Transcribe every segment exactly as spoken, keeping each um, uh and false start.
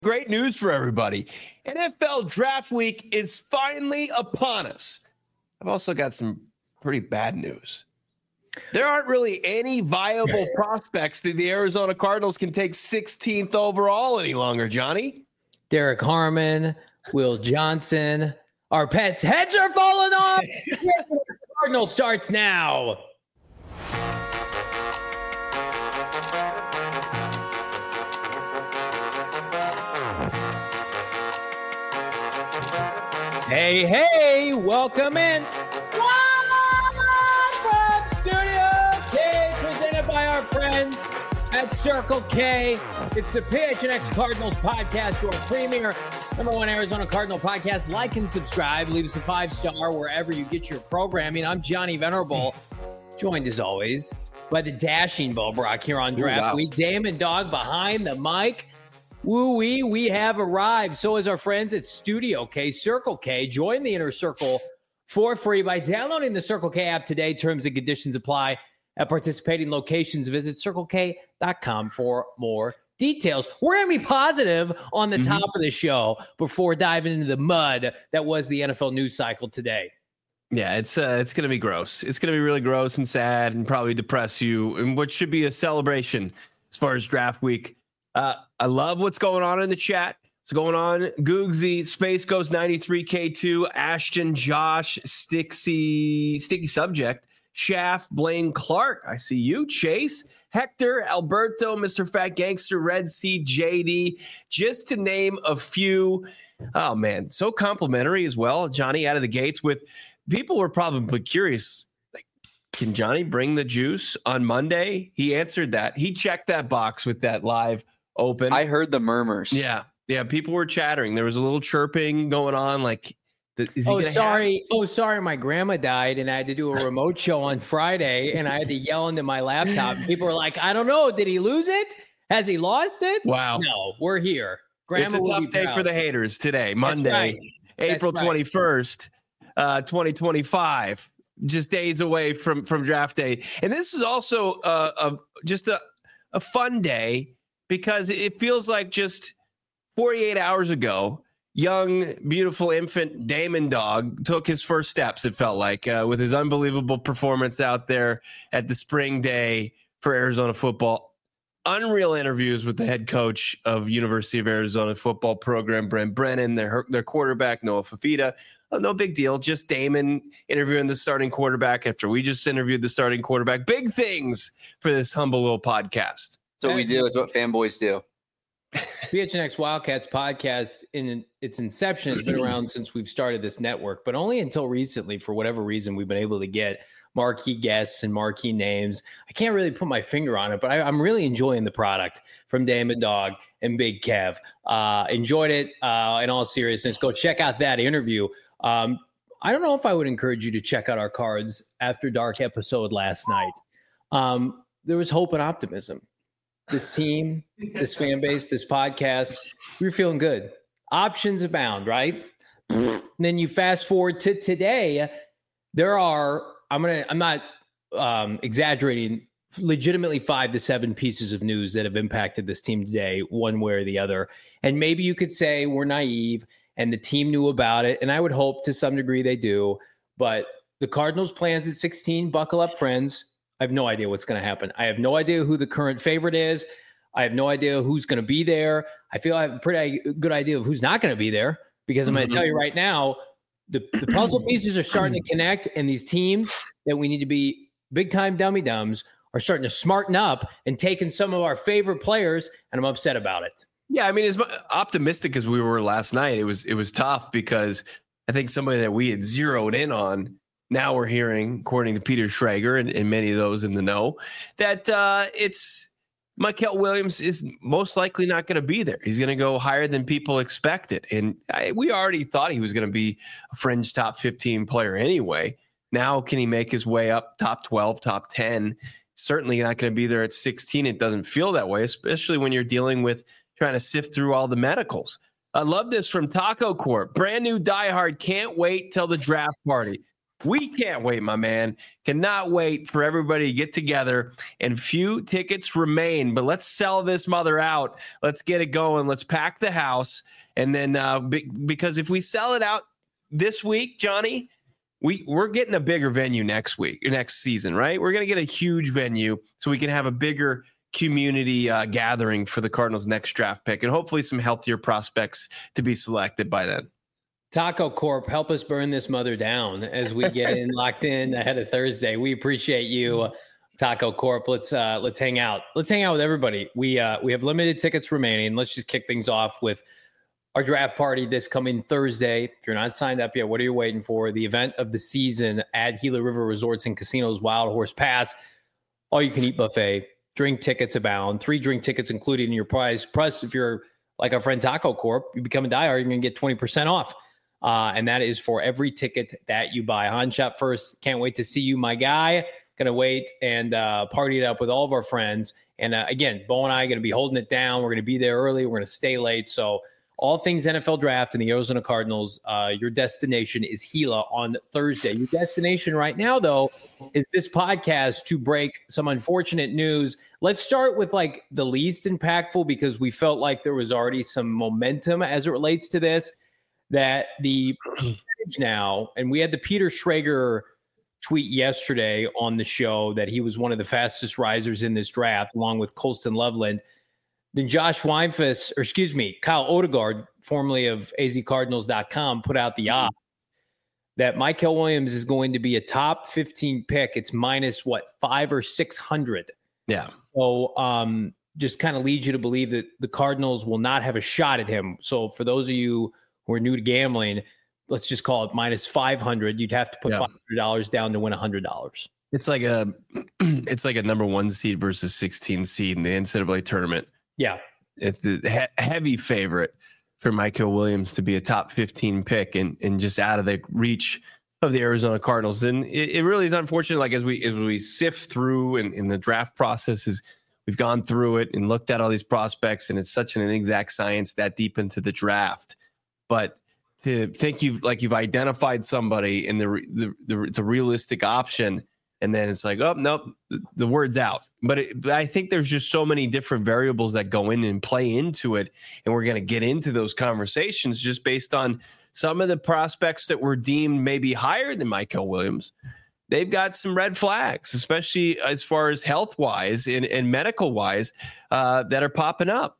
Great news for everybody. N F L Draft Week is finally upon us. I've also got some pretty bad news. There aren't really any viable prospects that the Arizona Cardinals can take sixteenth overall any longer, Johnny. Derek Harmon, Will Johnson. Our pets' heads are falling off. Cardinal starts now. Hey, hey, welcome in. Live from Studio K, presented by our friends at Circle K. It's the P H N X Cardinals podcast, your premier number one Arizona Cardinal podcast. Like and subscribe. Leave us a five-star wherever you get your programming. I'm Johnny Venerable, joined as always by the dashing Bo Brock here on Draft Ooh, wow. Week. Damon Dog behind the mic. Woo-wee, we have arrived. So is our friends at Studio K, Circle K. Join the inner circle for free by downloading the Circle K app today. Terms and conditions apply at participating locations. Visit circle k dot com for more details. We're going to be positive on the mm-hmm. top of the show before diving into the mud that was the N F L news cycle today. Yeah, it's uh, it's going to be gross. It's going to be really gross and sad and probably depress you in what should be a celebration as far as draft week. Uh, I love what's going on in the chat. What's going on? Googsy, Space Ghost ninety-three K two, Ashton, Josh, Stixy, Sticky Subject, Shaft, Blaine Clark. I see you. Chase, Hector, Alberto, Mister Fat Gangster, Red Sea, J D, just to name a few. Oh, man, so complimentary as well. Johnny out of the gates with people were probably curious. Like, can Johnny bring the juice on Monday? He answered that. He checked that box with that live open. I heard the murmurs. Yeah. Yeah. People were chattering. There was a little chirping going on. Like, is he oh, sorry. Have- oh, sorry. My grandma died and I had to do a remote show on Friday and I had to yell into my laptop. And people were like, I don't know. Did he lose it? Has he lost it? Wow. No, we're here. Grandma it's a tough day proud. For the haters today, Monday, right. April right. twenty-first, uh, twenty twenty-five. Just days away from, from draft day. And this is also uh, a, just a, a fun day because it feels like just forty-eight hours ago, young, beautiful infant Damon Dog took his first steps, it felt like, uh, with his unbelievable performance out there at the spring day for Arizona football. Unreal interviews with the head coach of University of Arizona football program, Brent Brennan, their, their quarterback, Noah Fafita. Oh, no big deal. Just Damon interviewing the starting quarterback after we just interviewed the starting quarterback. Big things for this humble little podcast. That's what we do. It's what fanboys do. P H N X Wildcats podcast in its inception has been around since we've started this network, but only until recently, for whatever reason, we've been able to get marquee guests and marquee names. I can't really put my finger on it, but I, I'm really enjoying the product from Damon Dog and Big Kev. Uh, enjoyed it uh, in all seriousness. Go check out that interview. Um, I don't know if I would encourage you to check out our Cards After Dark episode last night. Um, there was hope and optimism. This team, this fan base, this podcast, we were feeling good. Options abound, right? And then you fast forward to today. There are, I'm gonna, I'm not um, exaggerating, legitimately five to seven pieces of news that have impacted this team today, one way or the other. And maybe you could say we're naive and the team knew about it. And I would hope to some degree they do. But the Cardinals' plans at sixteen, buckle up, friends. I have no idea what's going to happen. I have no idea who the current favorite is. I have no idea who's going to be there. I feel I have a pretty good idea of who's not going to be there because I'm going to tell you right now, the, the puzzle pieces are starting to connect, and these teams that we need to be big-time dummy-dums are starting to smarten up and taking some of our favorite players, and I'm upset about it. Yeah, I mean, as optimistic as we were last night, it was it was tough because I think somebody that we had zeroed in on, now we're hearing, according to Peter Schrager and, and many of those in the know, that uh, it's Mykel Williams is most likely not going to be there. He's going to go higher than people expected. And I, we already thought he was going to be a fringe top fifteen player anyway. Now, can he make his way up top twelve, top ten? Certainly not going to be there at sixteen. It doesn't feel that way, especially when you're dealing with trying to sift through all the medicals. I love this from Taco Corp. Brand new diehard. Can't wait till the draft party. We can't wait, my man. Cannot wait for everybody to get together, and few tickets remain, but let's sell this mother out. Let's get it going. Let's pack the house. And then uh, be, because if we sell it out this week, Johnny, we, we're getting a bigger venue next week, next season, right? We're going to get a huge venue so we can have a bigger community uh, gathering for the Cardinals' next draft pick, and hopefully some healthier prospects to be selected by then. Taco Corp, help us burn this mother down as we get in locked in ahead of Thursday. We appreciate you, Taco Corp. Let's uh, let's hang out. Let's hang out with everybody. We uh, we have limited tickets remaining. Let's just kick things off with our draft party this coming Thursday. If you're not signed up yet, what are you waiting for? The event of the season at Gila River Resorts and Casinos Wild Horse Pass. All you can eat buffet. Drink tickets abound. Three drink tickets included in your price. Plus, if you're like our friend Taco Corp, you become a diehard, you're going to get twenty percent off. Uh, and that is for every ticket that you buy. Han Shop First, can't wait to see you, my guy. Going to wait and uh, party it up with all of our friends. And uh, again, Bo and I are going to be holding it down. We're going to be there early. We're going to stay late. So all things N F L Draft and the Arizona Cardinals, uh, your destination is Gila on Thursday. Your destination right now, though, is this podcast to break some unfortunate news. Let's start with like the least impactful, because we felt like there was already some momentum as it relates to this. That the now, and we had the Peter Schrager tweet yesterday on the show that he was one of the fastest risers in this draft, along with Colston Loveland. Then Josh Weinfuss, or excuse me, Kyle Odegaard, formerly of A Z Cardinals dot com, put out the odds that Mykel Williams is going to be a top fifteen pick. It's minus what, five or six hundred. Yeah. So um, just kind of leads you to believe that the Cardinals will not have a shot at him. So for those of you who are new to gambling, let's just call it minus five hundred. You'd have to put yeah. five hundred dollars down to win one hundred dollars. It's like a, it's like a number one seed versus sixteen seed in the N C double A tournament. Yeah. It's a he- heavy favorite for Mykel Williams to be a top fifteen pick and, and just out of the reach of the Arizona Cardinals. And it, it really is unfortunate. Like as we, as we sift through and in the draft processes, we've gone through it and looked at all these prospects, and it's such an inexact science that deep into the draft. But to think you've like you've identified somebody and the, the, the it's a realistic option, and then it's like, oh nope, the, the word's out. But, it, but I think there's just so many different variables that go in and play into it, and we're going to get into those conversations just based on some of the prospects that were deemed maybe higher than Mykel Williams. They've got some red flags, especially as far as health wise and, and medical wise, uh, that are popping up.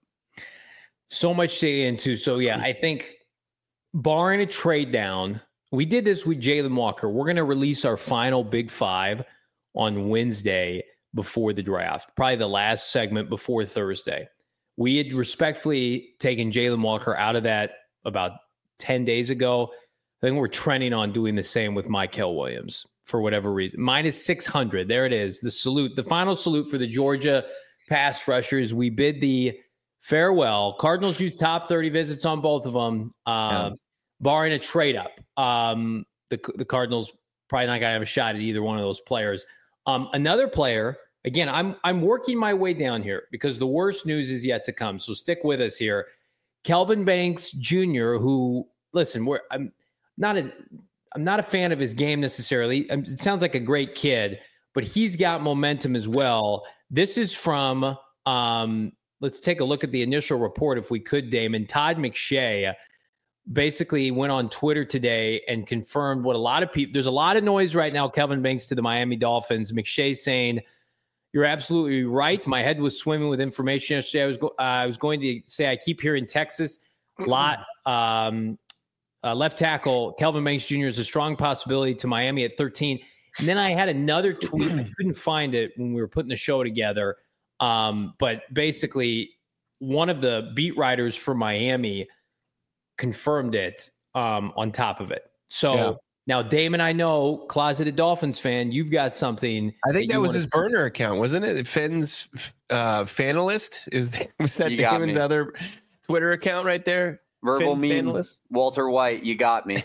So much to get into. So yeah, I think. Barring a trade down, we did this with Jalen Walker. We're going to release our final Big Five on Wednesday before the draft, probably the last segment before Thursday. We had respectfully taken Jalen Walker out of that about ten days ago. I think we're trending on doing the same with Mykel Williams for whatever reason. Minus six hundred. There it is. The salute, the final salute for the Georgia pass rushers. We bid the farewell. Cardinals use top thirty visits on both of them, uh, yeah. barring a trade up. Um, the the Cardinals probably not going to have a shot at either one of those players. Um, another player, again, I'm I'm working my way down here because the worst news is yet to come. So stick with us here. Kelvin Banks Junior, who listen, we're, I'm not a I'm not a fan of his game necessarily. It sounds like a great kid, but he's got momentum as well. This is from. Um, Let's take a look at the initial report, if we could, Damon. Todd McShay basically went on Twitter today and confirmed what a lot of people – there's a lot of noise right now, Kelvin Banks to the Miami Dolphins. McShay saying, you're absolutely right. My head was swimming with information yesterday. I was, go- uh, I was going to say I keep hearing Texas a lot. Um, uh, left tackle Kelvin Banks Junior is a strong possibility to Miami at thirteen. And then I had another tweet. I couldn't find it when we were putting the show together. Um, but basically, one of the beat writers for Miami confirmed it um, on top of it. So yeah. Now, Damon, I know, closeted Dolphins fan, you've got something. I think that, that was his to- burner account, wasn't it? Finn's uh, Fanalist? Is was that Damon's other Twitter account right there? Verbal meme, Walter White, you got me.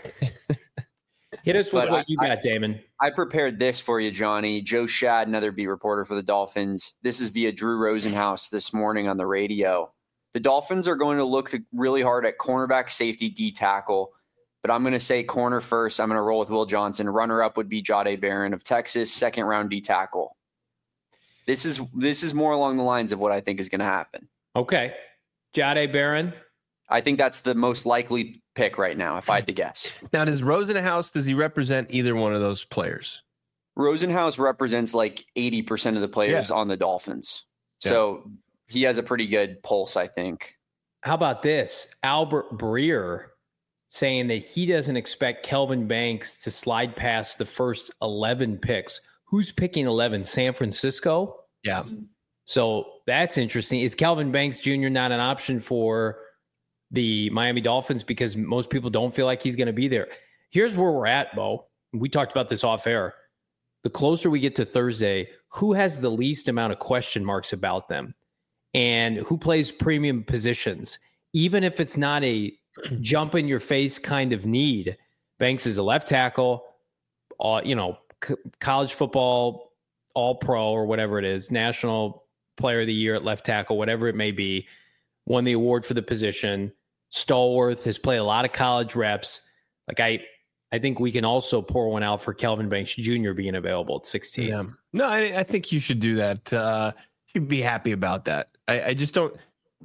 Hit us with but what I, you got, I, Damon. I prepared this for you, Johnny. Joe Shad, another beat reporter for the Dolphins. This is via Drew Rosenhaus this morning on the radio. The Dolphins are going to look to really hard at cornerback, safety, D tackle, but I'm going to say corner first. I'm going to roll with Will Johnson. Runner up would be Jahdae Barron of Texas, second round D tackle. This is this is more along the lines of what I think is going to happen. Okay. Jahdae Barron. I think that's the most likely pick right now, if I had to guess. Now, does Rosenhaus, does he represent either one of those players? Rosenhaus represents like eighty percent of the players yeah. on the Dolphins. Yeah. So he has a pretty good pulse, I think. How about this? Albert Breer saying that he doesn't expect Kelvin Banks to slide past the first eleven picks. Who's picking eleven? San Francisco? Yeah. So that's interesting. Is Kelvin Banks Junior not an option for the Miami Dolphins because most people don't feel like he's going to be there? Here's where we're at, Bo. We talked about this off air. The closer we get to Thursday, who has the least amount of question marks about them and who plays premium positions? Even if it's not a jump in your face kind of need, Banks is a left tackle, uh, you know, c- college football, all pro or whatever it is, national player of the year at left tackle, whatever it may be, won the award for the position. Stallworth has played a lot of college reps. Like I, I think we can also pour one out for Kelvin Banks Junior being available at sixteen. Yeah. No, I, I think you should do that. Uh, you'd be happy about that. I, I just don't,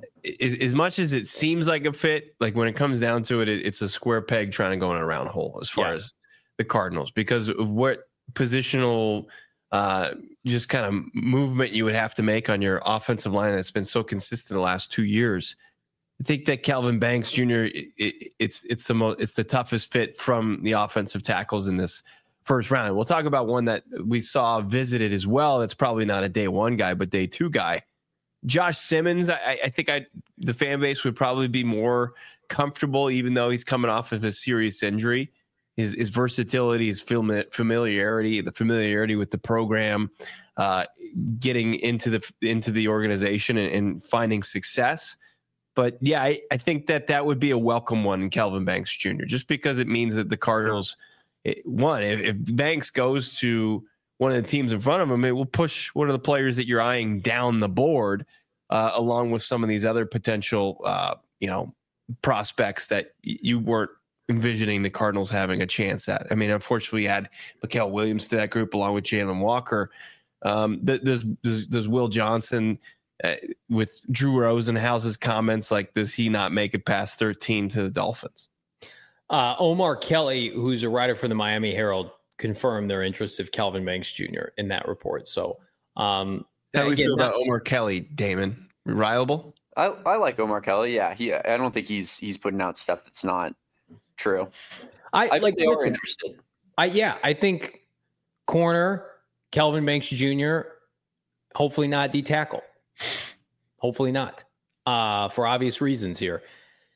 as much as it seems like a fit, like when it comes down to it, it it's a square peg trying to go in a round hole as far yeah. as the Cardinals, because of what positional uh, just kind of movement you would have to make on your offensive line that's been so consistent the last two years. I think that Kelvin Banks Junior It, it, it's it's the most it's the toughest fit from the offensive tackles in this first round. We'll talk about one that we saw visited as well. That's probably not a day one guy, but day two guy. Josh Simmons. I, I think I the fan base would probably be more comfortable, even though he's coming off of a serious injury. His his versatility, his familiarity, the familiarity with the program, uh, getting into the into the organization and, and finding success. But yeah, I, I think that that would be a welcome one in Kelvin Banks Junior, just because it means that the Cardinals, it, one, if, if Banks goes to one of the teams in front of him, it will push one of the players that you're eyeing down the board, uh, along with some of these other potential, uh, you know, prospects that y- you weren't envisioning the Cardinals having a chance at. I mean, unfortunately, we had Mikael Williams to that group along with Jalen Walker. Um, there's, there's, there's Will Johnson. Uh, with Drew Rosenhaus's comments, like, does he not make it past thirteen to the Dolphins? Uh, Omar Kelly, who's a writer for the Miami Herald, confirmed their interest of Kelvin Banks Junior in that report. So, um, how do we feel about Omar Kelly, Damon? Reliable? I, I like Omar Kelly. Yeah, he. I don't think he's he's putting out stuff that's not true. I, I like they are interested. I yeah, I think corner Kelvin Banks Junior Hopefully not D tackle. Hopefully not, uh, for obvious reasons here.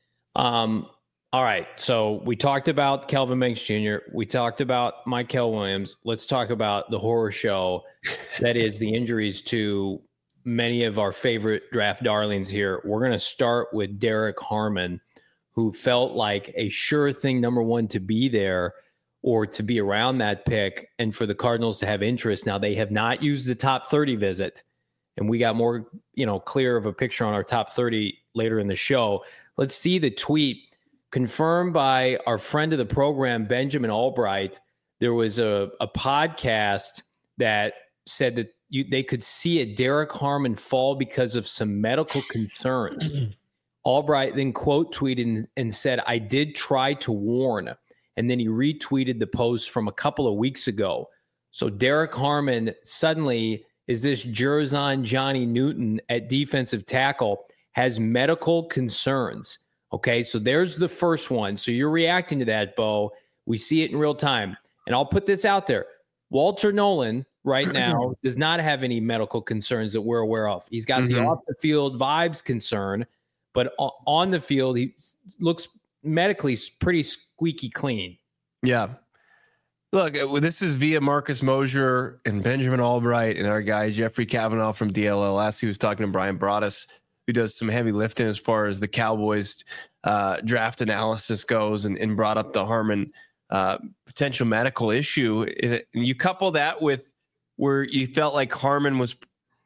Um, all right, so we talked about Kelvin Banks Junior We talked about Mikael Williams. Let's talk about the horror show that is the injuries to many of our favorite draft darlings here. We're going to start with Derek Harmon, who felt like a sure thing, number one, to be there or to be around that pick, and for the Cardinals to have interest. Now, they have not used the top thirty visit, and we got more, you know, clear of a picture on our top thirty later in the show. Let's see the tweet confirmed by our friend of the program, Benjamin Albright. There was a, a podcast that said that you, they could see a Derek Harmon fall because of some medical concerns. Albright then quote tweeted and, and said, "I did try to warn." And then he retweeted the post from a couple of weeks ago. So Derek Harmon suddenly is this Jerzon Johnny Newton at defensive tackle, has medical concerns. Okay, so there's the first one. So you're reacting to that, Bo. We see it in real time. And I'll put this out there. Walter Nolan right now does not have any medical concerns that we're aware of. He's got mm-hmm. the off-the-field vibes concern, but on the field, he looks medically pretty squeaky clean. Yeah. Look, this is via Marcus Mosher and Benjamin Albright and our guy Jeffrey Kavanaugh from D L L S. He was talking to Brian Broaddus, who does some heavy lifting as far as the Cowboys uh, draft analysis goes, and, and brought up the Harmon uh, potential medical issue. It, you couple that with where you felt like Harmon was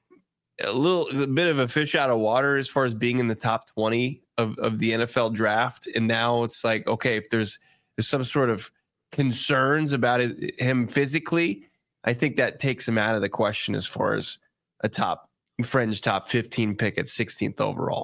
a little a bit of a fish out of water as far as being in the top twenty of, of the N F L draft. And now it's like, okay, if there's there's some sort of concerns about it, him physically, I think that takes him out of the question as far as a top fringe top fifteen pick at sixteenth overall.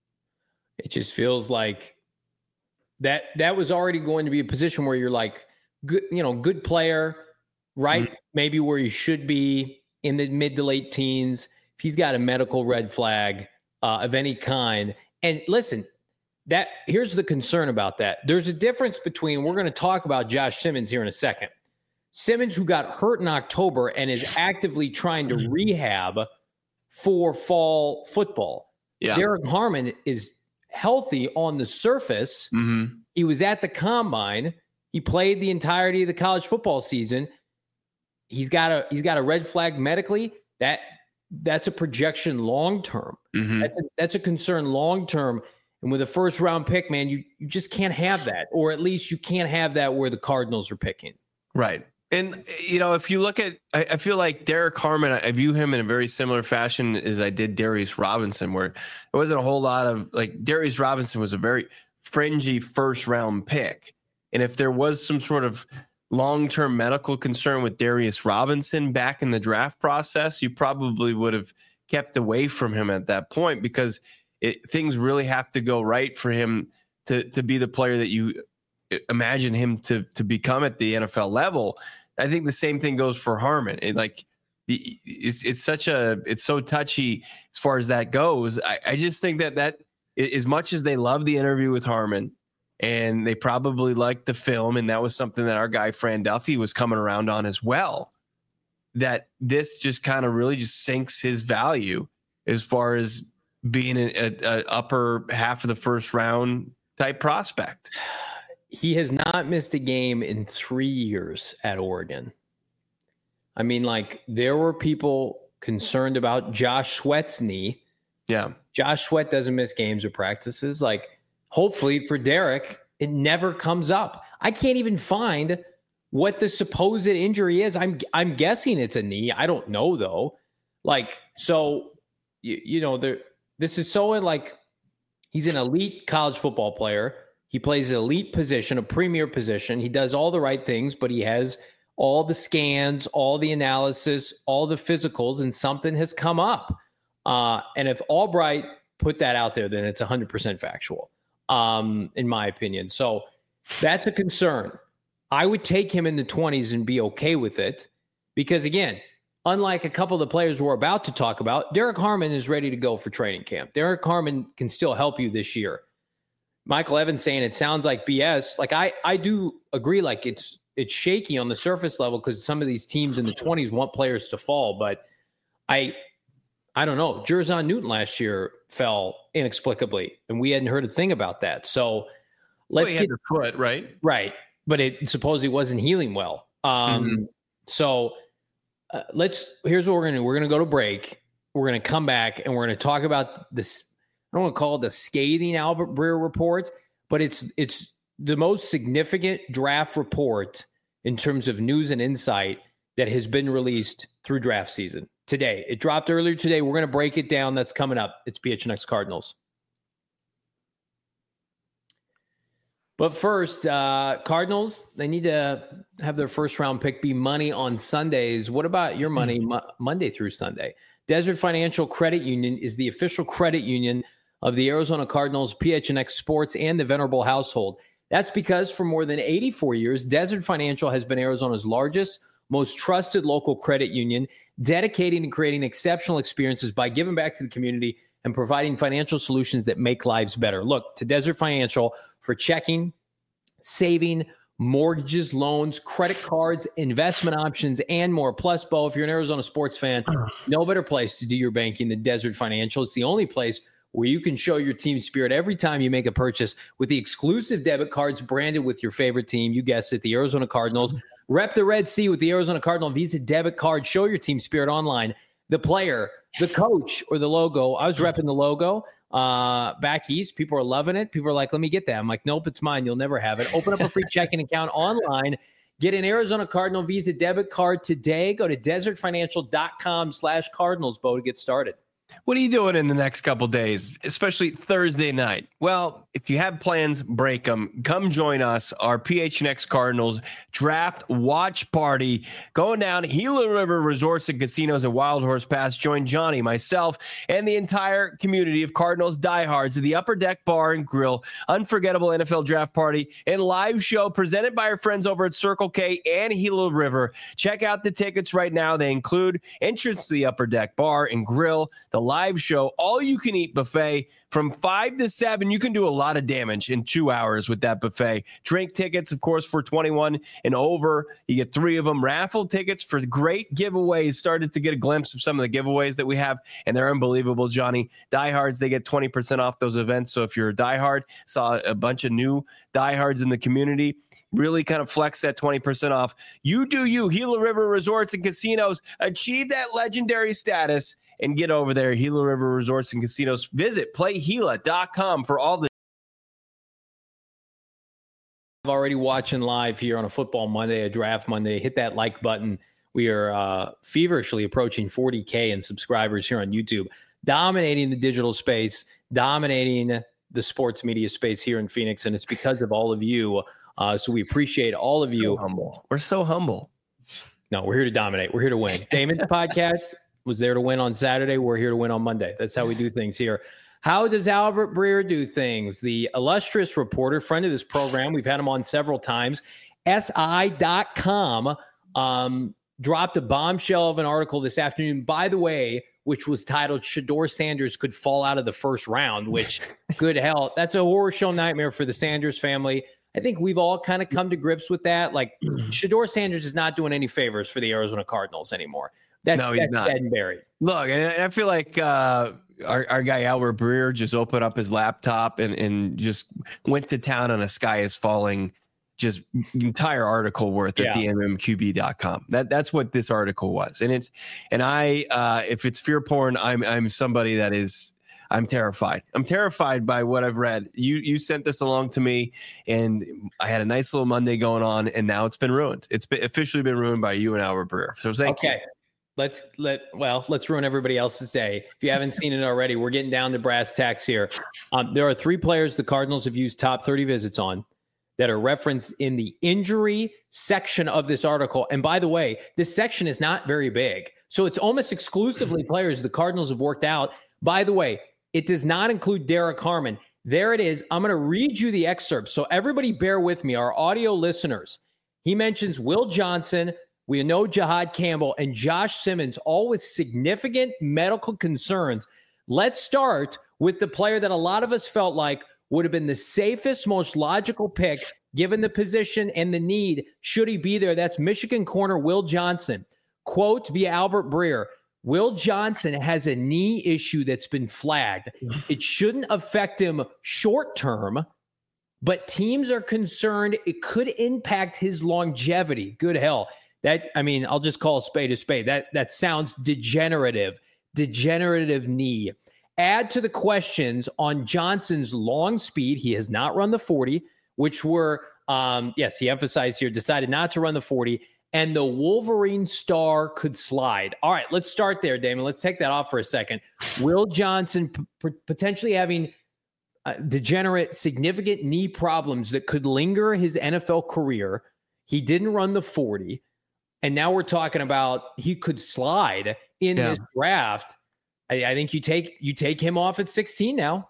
It just feels like that that was already going to be a position where you're like, good, you know, good player, right? Mm-hmm. Maybe where he should be in the mid to late teens. If he's got a medical red flag uh, of any kind. And listen, that here's the concern about that. There's a difference between, we're going to talk about Josh Simmons here in a second. Simmons, who got hurt in October and is actively trying to rehab for fall football. Yeah. Derek Harmon is healthy on the surface. Mm-hmm. He was at the combine. He played the entirety of the college football season. He's got a he's got a red flag medically. That that's a projection long term. Mm-hmm. That's a, that's a concern long term. And with a first round pick, man, you you just can't have that, or at least you can't have that where the Cardinals are picking. Right. And, you know, if you look at, I, I feel like Derek Harmon, I view him in a very similar fashion as I did Darius Robinson, where there wasn't a whole lot of, like, Darius Robinson was a very fringy first round pick. And if there was some sort of long-term medical concern with Darius Robinson back in the draft process, you probably would have kept away from him at that point, because it, things really have to go right for him to, to be the player that you imagine him to to become at the N F L level. I think the same thing goes for Harmon. It, like it's it's such a it's so touchy as far as that goes. I, I just think that that as much as they love the interview with Harmon and they probably liked the film, and that was something that our guy Fran Duffy was coming around on as well, that this just kind of really just sinks his value as far as being a, a, a upper half of the first round type prospect. He has not missed a game in three years at Oregon. I mean, like, there were people concerned about Josh Sweat's knee. Yeah. Josh Sweat doesn't miss games or practices. Like, hopefully for Derek, it never comes up. I can't even find what the supposed injury is. I'm I'm guessing it's a knee. I don't know, though. Like, so, you, you know, there. This is so, like, he's an elite college football player. He plays an elite position, a premier position. He does all the right things, but he has all the scans, all the analysis, all the physicals, and something has come up. Uh, and if Albright put that out there, then it's one hundred percent factual, um, in my opinion. So that's a concern. I would take him in the twenties and be okay with it because, again, unlike a couple of the players we're about to talk about, Derek Harmon is ready to go for training camp. Derek Harmon can still help you this year. Michael Evans saying it sounds like B S. Like, I, I do agree. Like, it's it's shaky on the surface level because some of these teams in the twenties want players to fall. But I I don't know. Jerzon Newton last year fell inexplicably, and we hadn't heard a thing about that. So let's well, get the foot right, right. But it supposedly wasn't healing well. Um, mm-hmm. So uh, let's. Here's what we're gonna do. We're gonna go to break. We're gonna come back, and we're gonna talk about this. I don't want to call it the scathing Albert Breer report, but it's it's the most significant draft report in terms of news and insight that has been released through draft season today. It dropped earlier today. We're going to break it down. That's coming up. It's P H N X Cardinals. But first, uh, Cardinals, they need to have their first round pick be money on Sundays. What about your money mm-hmm. mo- Monday through Sunday? Desert Financial Credit Union is the official credit union of the Arizona Cardinals, P H N X Sports, and the Venerable household. That's because for more than eighty-four years, Desert Financial has been Arizona's largest, most trusted local credit union, dedicating and creating exceptional experiences by giving back to the community and providing financial solutions that make lives better. Look to Desert Financial for checking, saving, mortgages, loans, credit cards, investment options, and more. Plus, Bo, if you're an Arizona sports fan, no better place to do your banking than Desert Financial. It's the only place where you can show your team spirit every time you make a purchase with the exclusive debit cards branded with your favorite team. You guessed it, the Arizona Cardinals. Rep the Red Sea with the Arizona Cardinal Visa debit card. Show your team spirit online. The player, the coach, or the logo. I was repping the logo uh, back east. People are loving it. People are like, let me get that. I'm like, nope, it's mine. You'll never have it. Open up a free checking account online. Get an Arizona Cardinal Visa debit card today. Go to desertfinancial.com slash Cardinals, Bo, to get started. What are you doing in the next couple days, especially Thursday night? Well, if you have plans, break them. Come join us, our P H N X Cardinals draft watch party going down Gila River Resorts and Casinos at Wild Horse Pass. Join Johnny, myself, and the entire community of Cardinals diehards at the Upper Deck Bar and Grill. Unforgettable N F L draft party and live show presented by our friends over at Circle K and Gila River. Check out the tickets right now. They include entrance to the Upper Deck Bar and Grill, the live show, all you can eat buffet from five to seven. You can do a lot of damage in two hours with that buffet. Drink tickets, of course, for twenty-one and over. You get three of them. Raffle tickets for great giveaways. Started to get a glimpse of some of the giveaways that we have, and they're unbelievable, Johnny. Diehards, they get twenty percent off those events. So if you're a diehard, saw a bunch of new diehards in the community, really kind of flex that twenty percent off. You do you. Gila River Resorts and Casinos. Achieve that legendary status and get over there. Gila River Resorts and Casinos. Visit play gila dot com for all the. Already watching live here on a Football Monday, a Draft Monday. Hit that like button. We are uh, feverishly approaching forty K in subscribers here on YouTube, dominating the digital space, dominating the sports media space here in Phoenix, and it's because of all of you. Uh, so we appreciate all of you. So humble. We're so humble. No, we're here to dominate. We're here to win. Damon's podcast was there to win on Saturday. We're here to win on Monday. That's how we do things here. How does Albert Breer do things? The illustrious reporter, friend of this program, we've had him on several times, S I dot com, um, dropped a bombshell of an article this afternoon, by the way, which was titled Shedeur Sanders Could Fall Out of the First Round, which, good hell, that's a horror show nightmare for the Sanders family. I think we've all kind of come to grips with that. Like, Shedeur Sanders is not doing any favors for the Arizona Cardinals anymore. That's, no, he's that's not. dead and buried. Look, and I feel like uh, our, our guy Albert Breer just opened up his laptop and, and just went to town on a Sky is Falling, just entire article worth Yeah. at the M M Q B dot com. That that's what this article was. And it's and I uh, if it's fear porn, I'm I'm somebody that is I'm terrified. I'm terrified by what I've read. You you sent this along to me, and I had a nice little Monday going on, and now it's been ruined. It's been officially been ruined by you and Albert Breer. So thank okay. you. Let's let well, let's ruin everybody else's day. If you haven't seen it already, we're getting down to brass tacks here. Um, there are three players the Cardinals have used top thirty visits on that are referenced in the injury section of this article. And by the way, this section is not very big. So it's almost exclusively players the Cardinals have worked out. By the way, it does not include Derek Harmon. There it is. I'm going to read you the excerpt. So everybody bear with me, our audio listeners. He mentions Will Johnson. We know Jihad Campbell and Josh Simmons, all with significant medical concerns. Let's start with the player that a lot of us felt like would have been the safest, most logical pick, given the position and the need, should he be there. That's Michigan corner Will Johnson. Quote via Albert Breer, Will Johnson has a knee issue that's been flagged. It shouldn't affect him short term, but teams are concerned it could impact his longevity. Good hell. That, I mean, I'll just call a spade a spade. That that sounds degenerative, degenerative knee. Add to the questions on Johnson's long speed. He has not run the forty, which were, um, yes, he emphasized here, decided not to run the forty, and the Wolverine star could slide. All right, let's start there, Damon. Let's take that off for a second. Will Johnson p- potentially having uh, degenerate, significant knee problems that could linger his N F L career. He didn't run the forty. And now we're talking about he could slide in Yeah. this draft. I, I think you take you take him off at sixteen now.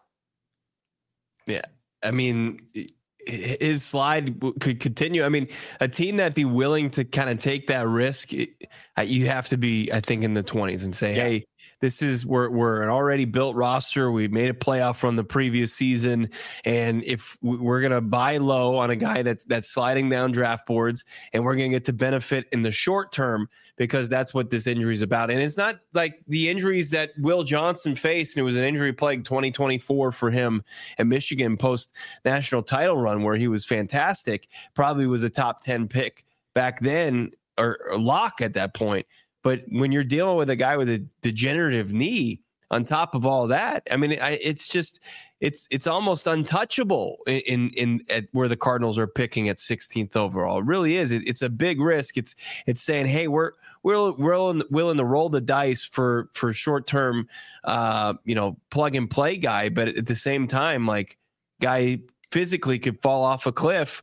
Yeah. I mean, his slide could continue. I mean, a team that'd be willing to kind of take that risk, you have to be, I think, in the twenties and say, yeah. hey, this is we're we're an already built roster. We made a playoff from the previous season, and if we're gonna buy low on a guy that's that's sliding down draft boards, and we're gonna get to benefit in the short term because that's what this injury is about. And it's not like the injuries that Will Johnson faced, and it was an injury plagued twenty twenty-four for him at Michigan post national title run where he was fantastic. Probably was a top ten pick back then, or, or lock at that point. But when you're dealing with a guy with a degenerative knee, on top of all that, I mean, I, it's just it's it's almost untouchable in in, in at where the Cardinals are picking at sixteenth overall. It really is. It, it's a big risk. It's it's saying, hey, we're we're we're willing to roll the dice for for short term, uh, you know, plug and play guy, but at the same time, like guy physically could fall off a cliff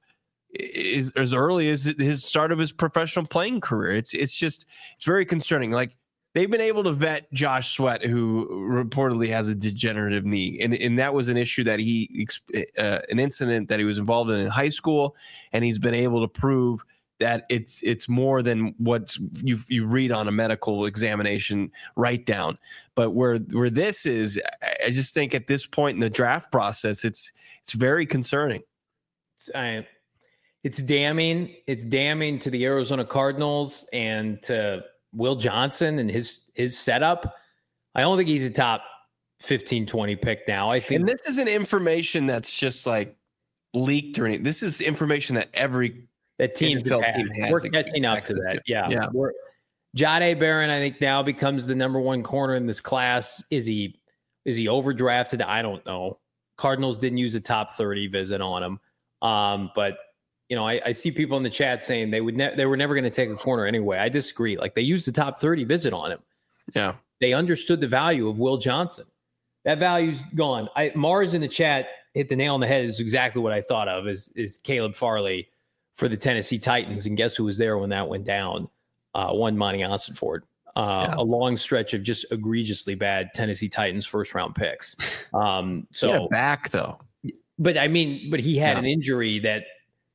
is, as early as his start of his professional playing career. It's it's just it's very concerning. Like they've been able to vet Josh Sweat, who reportedly has a degenerative knee, and and that was an issue that he uh, an incident that he was involved in in high school, and he's been able to prove that it's it's more than what you you read on a medical examination write down. But where where this is, I just think at this point in the draft process, it's it's very concerning. It's, I, it's damning. It's damning to the Arizona Cardinals and to Will Johnson and his his setup. I don't think he's a top fifteen, twenty pick now. I think, and this isn't information that's just like leaked or anything. This is information that every that team team has. We're catching up to that. To. Yeah. yeah. We're, Jahdae Barron, I think, now becomes the number one corner in this class. Is he is he overdrafted? I don't know. Cardinals didn't use a top thirty visit on him. Um, but you know, I, I see people in the chat saying they would ne- they were never going to take a corner anyway. I disagree. Like they used the top thirty visit on him. Yeah. They understood the value of Will Johnson. That value's gone. I, Mars in the chat hit the nail on the head. Is exactly what I thought of is, is Caleb Farley for the Tennessee Titans. And guess who was there when that went down? Uh, one Monty Ossenford. Uh, yeah. A long stretch of just egregiously bad Tennessee Titans first round picks. Um, so back though. But I mean, but he had yeah. an injury that,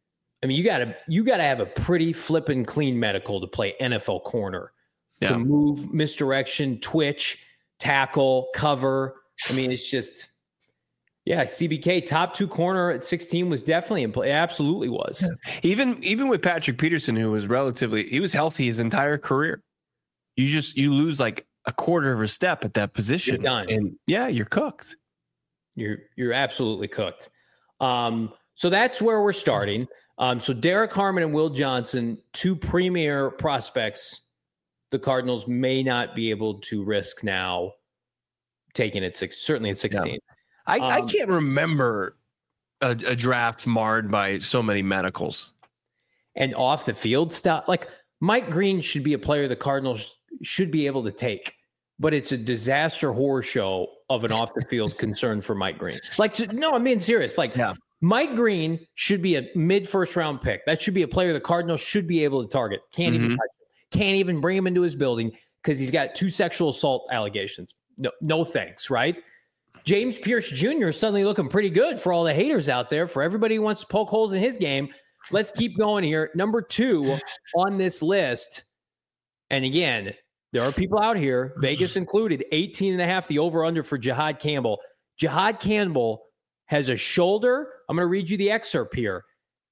I mean, you gotta, you gotta have a pretty flippin' clean medical to play N F L corner, yeah. to move, misdirection, twitch, tackle, cover. I mean, it's just, yeah, C B K top two corner at sixteen was definitely in play. It absolutely was. Yeah. Even, even with Patrick Peterson, who was relatively, he was healthy his entire career. You just, you lose like a quarter of a step at that position. You're done. And yeah, you're cooked. You're, you're absolutely cooked. Um, so that's where we're starting. Um, so Derek Harmon and Will Johnson, two premier prospects, the Cardinals may not be able to risk now taking it six, certainly at sixteen. Yeah. I, um, I can't remember a, a draft marred by so many medicals and off the field stuff. Like Mike Green should be a player the Cardinals should be able to take, but it's a disaster horror show of an off the field concern for Mike Green. Like, no, I'm being serious. Like, yeah. Mike Green should be a mid first round pick. That should be a player the Cardinals should be able to target. Can't mm-hmm. even touch him. Can't even bring him into his building because he's got two sexual assault allegations. No, no thanks, right? James Pierce Junior is suddenly looking pretty good for all the haters out there, for everybody who wants to poke holes in his game. Let's keep going here. Number two on this list. And again, there are people out here, Vegas included, eighteen and a half, the over-under for Jihad Campbell. Jihad Campbell has a shoulder. I'm going to read you the excerpt here.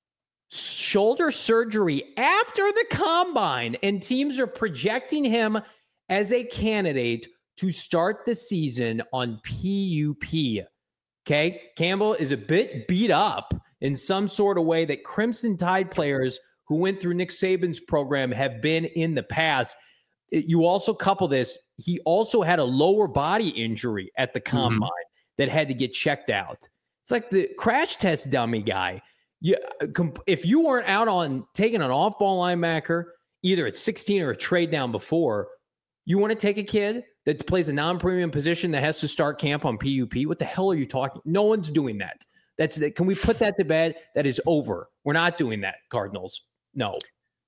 Shoulder surgery after the combine, and teams are projecting him as a candidate to start the season on P U P. Okay? Campbell is a bit beat up in some sort of way that Crimson Tide players who went through Nick Saban's program have been in the past. You also couple this, he also had a lower body injury at the combine mm-hmm. that had to get checked out. It's like the crash test dummy guy. You, if you weren't out on taking an off-ball linebacker, either at sixteen or a trade down before, you want to take a kid that plays a non-premium position that has to start camp on P U P? What the hell are you talking? No one's doing that. That's Can we put that to bed? That is over. We're not doing that, Cardinals. No.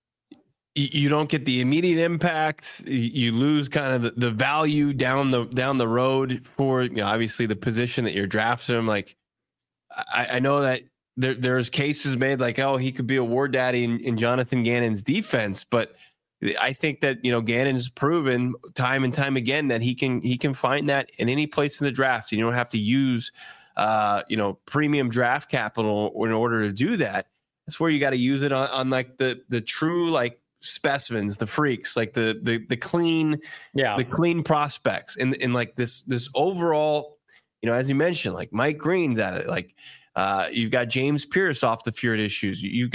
You don't get the immediate impact. You lose kind of the, the value down the down the road for, you know, obviously the position that you're drafting him. Like, I, I know that there there's cases made like, oh, he could be a war daddy in, in Jonathan Gannon's defense, but I think that, you know, Gannon's proven time and time again that he can he can find that in any place in the draft. And you don't have to use, uh, you know, premium draft capital in order to do that. That's where you got to use it on, on like the the true like specimens, the freaks, like the the the clean, yeah, the clean prospects, and and like this this overall, you know, as you mentioned, like Mike Green's at it, like uh, you've got James Pierce off the field issues, you've got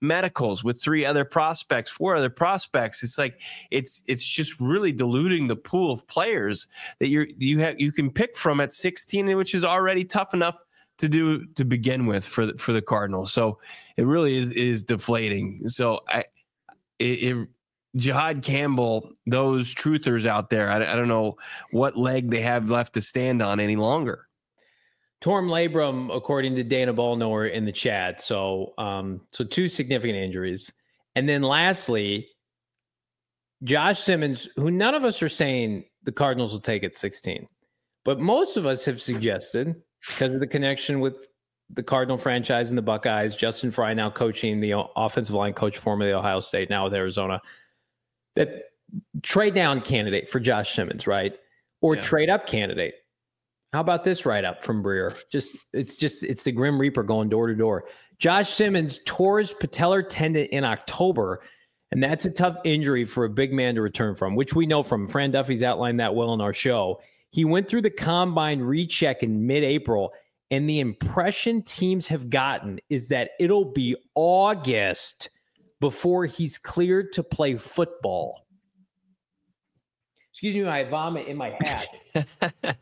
medicals with three other prospects, four other prospects. It's like it's it's just really diluting the pool of players that you're you have you can pick from at sixteen, which is already tough enough to do to begin with for the, for the Cardinals. So it really is is deflating. So I it, it Jihad Campbell, those truthers out there, I, I don't know what leg they have left to stand on any longer. Torm labrum, according to Dana Ballnower in the chat. So, um, so two significant injuries. And then lastly, Josh Simmons, who none of us are saying the Cardinals will take at sixteen, but most of us have suggested, because of the connection with the Cardinal franchise and the Buckeyes, Justin Fry now coaching the offensive line coach formerly Ohio State, now with Arizona, that trade down candidate for Josh Simmons, right? Or yeah. trade up candidate. How about this write up from Breer? Just it's just it's the Grim Reaper going door to door. Josh Simmons tore his patellar tendon in October, and that's a tough injury for a big man to return from, which we know from. Fran Duffy's outlined that well in our show. He went through the combine recheck in mid-April, and the impression teams have gotten is that it'll be August before he's cleared to play football. Excuse me, I vomit in my hat.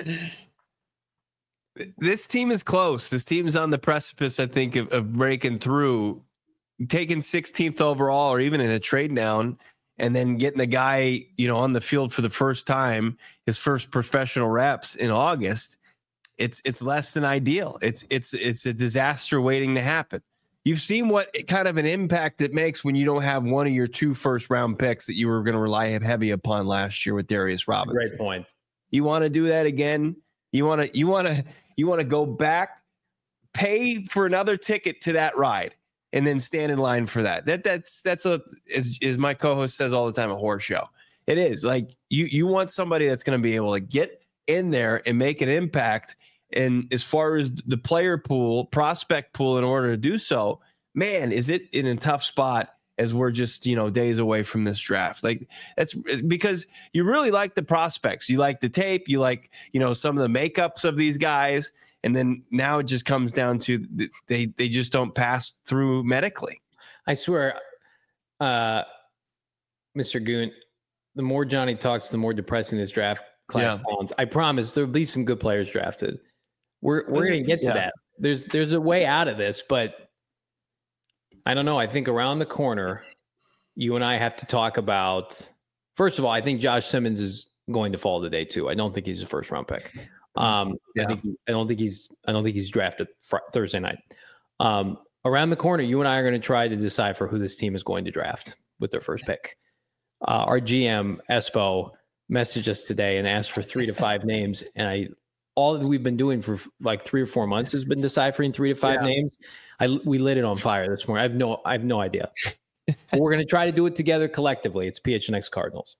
This team is close. This team is on the precipice, I think, of, of breaking through, taking sixteenth overall or even in a trade down, and then getting a guy, you know, on the field for the first time, his first professional reps in August. It's it's less than ideal. It's it's it's a disaster waiting to happen. You've seen what kind of an impact it makes when you don't have one of your two first round picks that you were going to rely heavy upon last year with Darius Robinson. Great point. You want to do that again? You want to you want to you want to go back, pay for another ticket to that ride, and then stand in line for that. That that's that's a as, as my co-host says all the time, a horse show. It is like you you want somebody that's going to be able to get in there and make an impact. And as far as the player pool, prospect pool, in order to do so, man, is it in a tough spot as we're just, you know, days away from this draft. Like that's because you really like the prospects. You like the tape. You like, you know, some of the makeups of these guys. And then now it just comes down to they, they just don't pass through medically. I swear, uh, Mister Goon, the more Johnny talks, the more depressing this draft class yeah. sounds. I promise there'll be some good players drafted. We're we're going to get to yeah. that. There's there's a way out of this, but I don't know. I think around the corner, you and I have to talk about, first of all, I think Josh Simmons is going to fall today too. I don't think he's a first round pick. Um, yeah. I think I don't think he's I don't think he's drafted fr- Thursday night. Um, around the corner, you and I are going to try to decipher who this team is going to draft with their first pick. Uh, our G M Espo messaged us today and asked for three to five names, and I all that we've been doing for like three or four months has been deciphering three to five yeah. names. I we lit it on fire this morning. I have no I have no idea. But we're going to try to do it together collectively. It's P H N X Cardinals.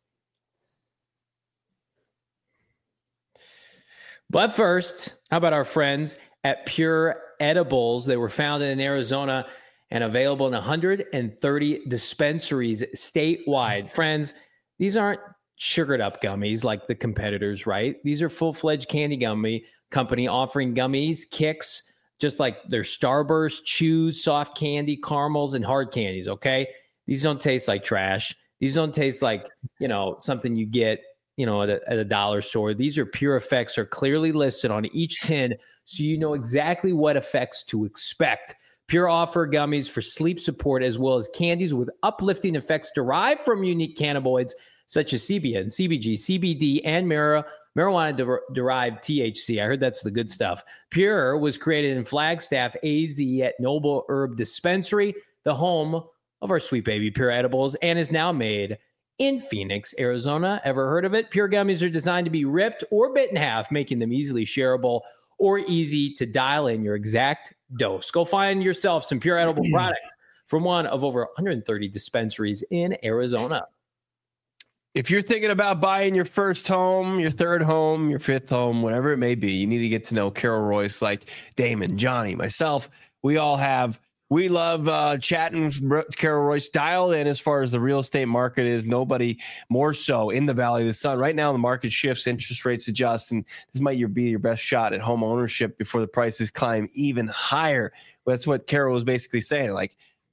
But first, how about our friends at Pure Edibles? They were founded in Arizona and available in one hundred thirty dispensaries statewide. Friends, these aren't sugared up gummies like the competitors, right? These are full-fledged candy gummy company offering gummies, kicks, just like their Starburst, chews, soft candy, caramels, and hard candies, okay? These don't taste like trash. These don't taste like, you know, something you get, you know, at a, at a dollar store. These are pure effects, are clearly listed on each tin, so you know exactly what effects to expect. Pure offer gummies for sleep support, as well as candies with uplifting effects derived from unique cannabinoids such as C B N, C B G, C B D, and mar- marijuana-derived T H C. I heard that's the good stuff. Pure was created in Flagstaff, A Z at Noble Herb Dispensary, the home of our sweet baby Pure Edibles, and is now made in Phoenix, Arizona. Ever heard of it? Pure gummies are designed to be ripped or bit in half, making them easily shareable or easy to dial in your exact dose. Go find yourself some Pure Edible products from one of over one hundred thirty dispensaries in Arizona. If you're thinking about buying your first home, your third home, your fifth home, whatever it may be, you need to get to know Carol Royce, like Damon, Johnny, myself. We all have, we love uh, chatting with Carol Royce, dialed in as far as the real estate market is. Nobody more so in the Valley of the Sun. Right now, the market shifts, interest rates adjust, and this might be your best shot at home ownership before the prices climb even higher. That's what Carol was basically saying. Like,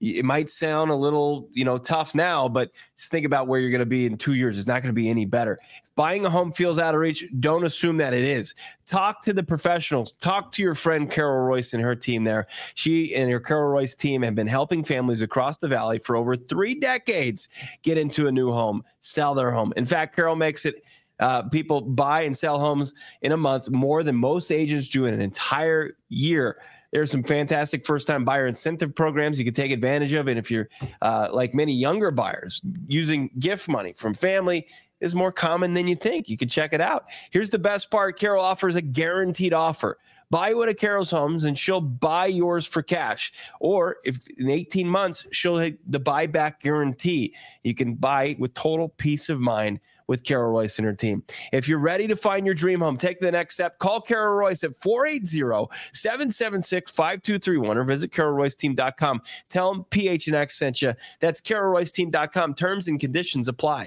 it might sound a little, you know, tough now, but just think about where you're going to be in two years. It's not going to be any better. If buying a home feels out of reach, don't assume that it is. Talk to the professionals. Talk to your friend Carol Royce and her team there. She and her Carol Royce team have been helping families across the valley for over three decades get into a new home, sell their home. In fact, Carol makes it uh, people buy and sell homes in a month more than most agents do in an entire year. There's some fantastic first-time buyer incentive programs you can take advantage of. And if you're uh, like many younger buyers, using gift money from family is more common than you think. You can check it out. Here's the best part. Carol offers a guaranteed offer. Buy one of Carol's homes and she'll buy yours for cash. Or if in eighteen months, she'll hit the buyback guarantee. You can buy with total peace of mind with Carol Royce and her team. If you're ready to find your dream home, take the next step. Call Carol Royce at four eight zero, seven seven six, five two three one or visit carol royce team dot com. Tell them P H N X sent you. That's carol royce team dot com. Terms and conditions apply.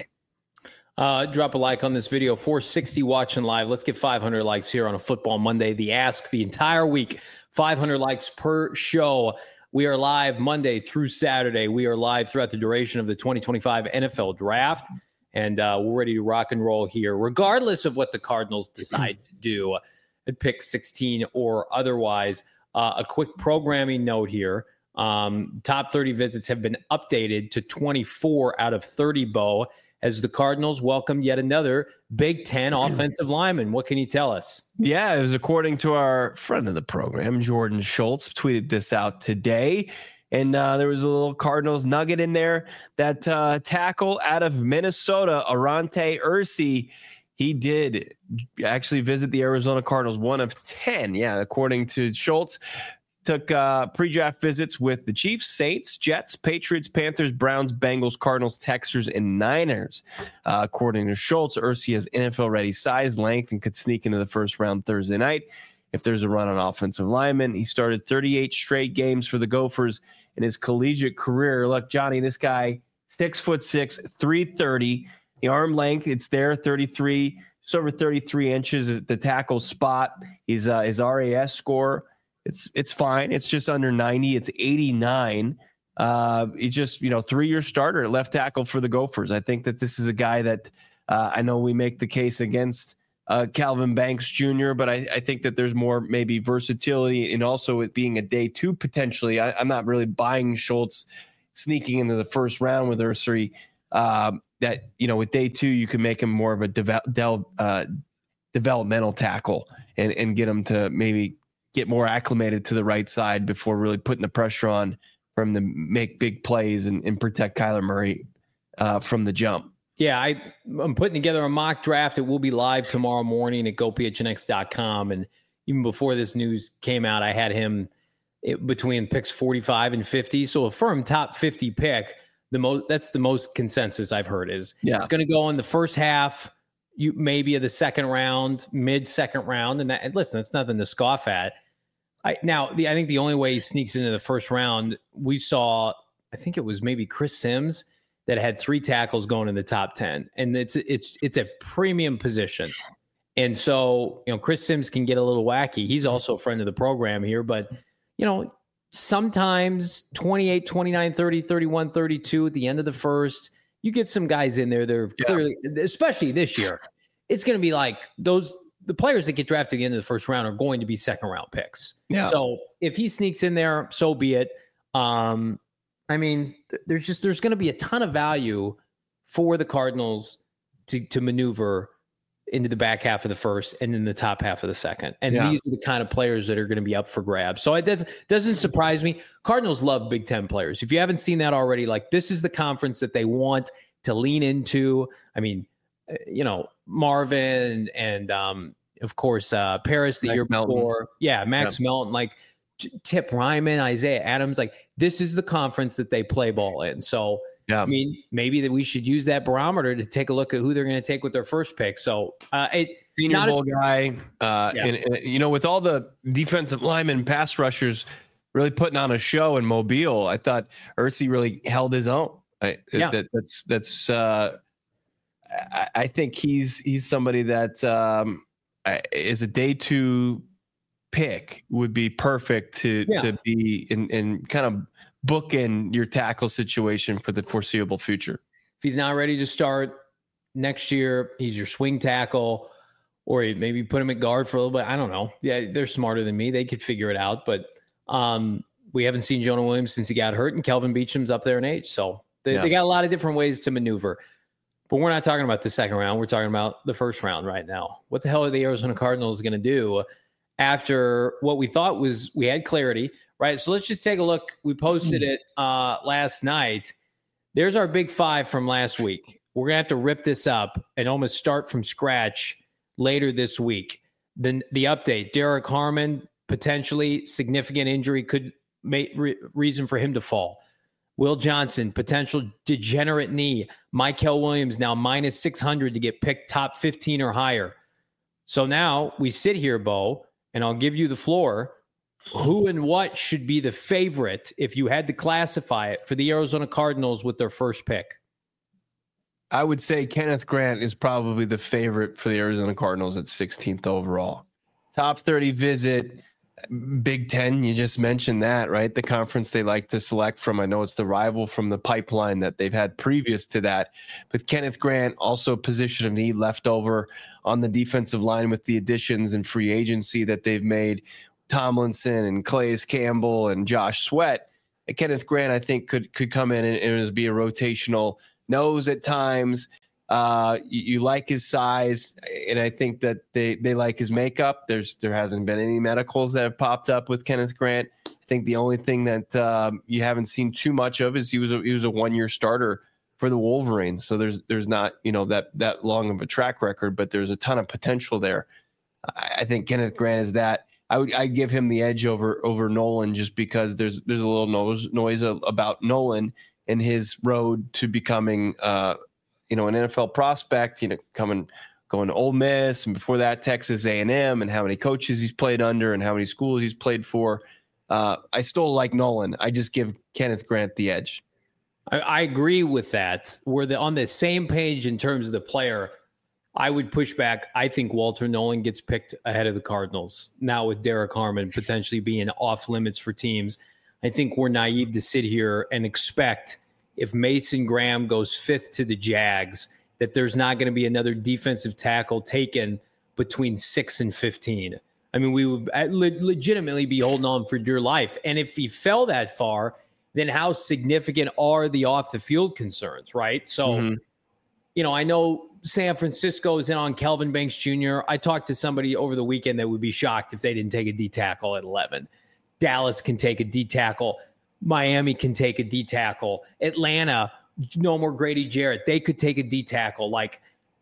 Uh, drop a like on this video. four sixty watching live. Let's get five hundred likes here on a Football Monday. The Ask the entire week. five hundred likes per show. We are live Monday through Saturday. We are live throughout the duration of the twenty twenty-five N F L Draft. And uh, we're ready to rock and roll here, regardless of what the Cardinals decide to do at pick sixteen or otherwise. Uh, a quick programming note here. Um, top thirty visits have been updated to twenty-four out of thirty, Bo, as the Cardinals welcome yet another Big Ten offensive lineman. What can you tell us? Yeah, it was according to our friend of the program, Jordan Schultz, tweeted this out today. And uh, there was a little Cardinals nugget in there. That uh, tackle out of Minnesota, Arante Ursi, he did actually visit the Arizona Cardinals, one of ten. Yeah, according to Schultz. Took uh, pre-draft visits with the Chiefs, Saints, Jets, Patriots, Panthers, Browns, Bengals, Cardinals, Texans, and Niners. Uh, according to Schultz, Ursi has N F L-ready size, length, and could sneak into the first round Thursday night if there's a run on offensive linemen. He started thirty-eight straight games for the Gophers in his collegiate career. Look, Johnny, this guy, six foot six, three thirty. The arm length, it's there, thirty-three, just over thirty-three inches at the tackle spot. He's uh, his R A S score, it's it's fine. It's just under ninety. It's eighty-nine. Uh, he just, you know, three-year starter at left tackle for the Gophers. I think that this is a guy that uh, I know we make the case against Uh, Calvin Banks Junior, but I, I think that there's more maybe versatility and also it being a day two potentially. I, I'm not really buying Schultz sneaking into the first round with Ursi. Um, that, you know, with day two, you can make him more of a deve- del- uh, developmental tackle and, and get him to maybe get more acclimated to the right side before really putting the pressure on for him to make big plays and, and protect Kyler Murray uh, from the jump. Yeah, I, I'm putting together a mock draft. It will be live tomorrow morning at go p h n x dot com. And even before this news came out, I had him it, between picks forty-five and fifty. So a firm top fifty pick, the most that's the most consensus I've heard is yeah. It's going to go in the first half, you maybe of the second round, mid second round. And that, and listen, that's nothing to scoff at. I, now, the, I think the only way he sneaks into the first round, we saw, I think it was maybe Chris Sims, that had three tackles going in the top ten. And it's it's it's a premium position. And so, you know, Chris Sims can get a little wacky. He's also a friend of the program here, but, you know, sometimes twenty-eight, twenty-nine, thirty, thirty-one, thirty-two at the end of the first, you get some guys in there that are clearly, yeah. especially this year, it's going to be like those, the players that get drafted at the end of the first round are going to be second round picks. Yeah. So if he sneaks in there, so be it. Um, I mean, there's just there's going to be a ton of value for the Cardinals to to maneuver into the back half of the first and in the top half of the second. And yeah. these are the kind of players that are going to be up for grabs. So it does, doesn't surprise me. Cardinals love Big Ten players. If you haven't seen that already, like this is the conference that they want to lean into. I mean, you know, Marvin and um, of course uh, Paris the Max year Melton. before. Yeah, Max yeah. Melton, like Tip Ryman, Isaiah Adams, like this is the conference that they play ball in. So, yeah. I mean, maybe that we should use that barometer to take a look at who they're going to take with their first pick. So, uh, it, Senior Bowl a, guy, uh, yeah. and, and, you know, with all the defensive linemen, pass rushers really putting on a show in Mobile, I thought Ursi really held his own. I, yeah. that, that's, that's, uh, I, I think he's, he's somebody that um, is a day two pick would be perfect to yeah. to be in, in kind of book in your tackle situation for the foreseeable future. If he's not ready to start next year, he's your swing tackle, or maybe put him at guard for a little bit. I don't know. Yeah, they're smarter than me. They could figure it out. But um, we haven't seen Jonah Williams since he got hurt, and Kelvin Beacham's up there in age. So they, yeah. they got a lot of different ways to maneuver. But we're not talking about the second round. We're talking about the first round right now. What the hell are the Arizona Cardinals going to do after what we thought was we had clarity, right? So let's just take a look. We posted it uh, last night. There's our big five from last week. We're going to have to rip this up and almost start from scratch later this week. Then the update, Derek Harmon, potentially significant injury could make re- reason for him to fall. Will Johnson, potential degenerate knee. Mykel Williams now minus six hundred to get picked top fifteen or higher. So now we sit here, Bo, and I'll give you the floor. Who and what should be the favorite if you had to classify it for the Arizona Cardinals with their first pick? I would say Kenneth Grant is probably the favorite for the Arizona Cardinals at sixteenth overall. Top thirty visit. Big Ten, you just mentioned that, right? The conference they like to select from. I know it's the rival from the pipeline that they've had previous to that. But Kenneth Grant, also position of need left over on the defensive line with the additions and free agency that they've made. Tomlinson and Calais Campbell and Josh Sweat. And Kenneth Grant, I think, could could come in and, and be a rotational nose at times. Uh, you, you like his size, and I think that they, they like his makeup. There's there hasn't been any medicals that have popped up with Kenneth Grant. I think the only thing that um, you haven't seen too much of is he was a, he was a one year starter for the Wolverines. So there's there's not you know that that long of a track record, but there's a ton of potential there. I, I think Kenneth Grant is that. I would I give him the edge over over Nolan just because there's there's a little noise noise about Nolan and his road to becoming uh, you know an N F L prospect. You know, coming going to Ole Miss and before that Texas A and M, and how many coaches he's played under and how many schools he's played for. Uh, I still like Nolan. I just give Kenneth Grant the edge. I, I agree with that. We're the, on the same page in terms of the player. I would push back. I think Walter Nolan gets picked ahead of the Cardinals. Now with Derek Harmon potentially being off limits for teams, I think we're naive to sit here and expect if Mason Graham goes fifth to the Jags, that there's not going to be another defensive tackle taken between six and fifteen. I mean, we would le- legitimately be holding on for dear life. And if he fell that far, then how significant are the off the field concerns, right? So, mm-hmm. you know, I know San Francisco is in on Kelvin Banks Junior I talked to somebody over the weekend that would be shocked if they didn't take a D tackle at eleven. Dallas can take a D tackle. Miami can take a D tackle. Atlanta, no more Grady Jarrett. They could take a D tackle. Like,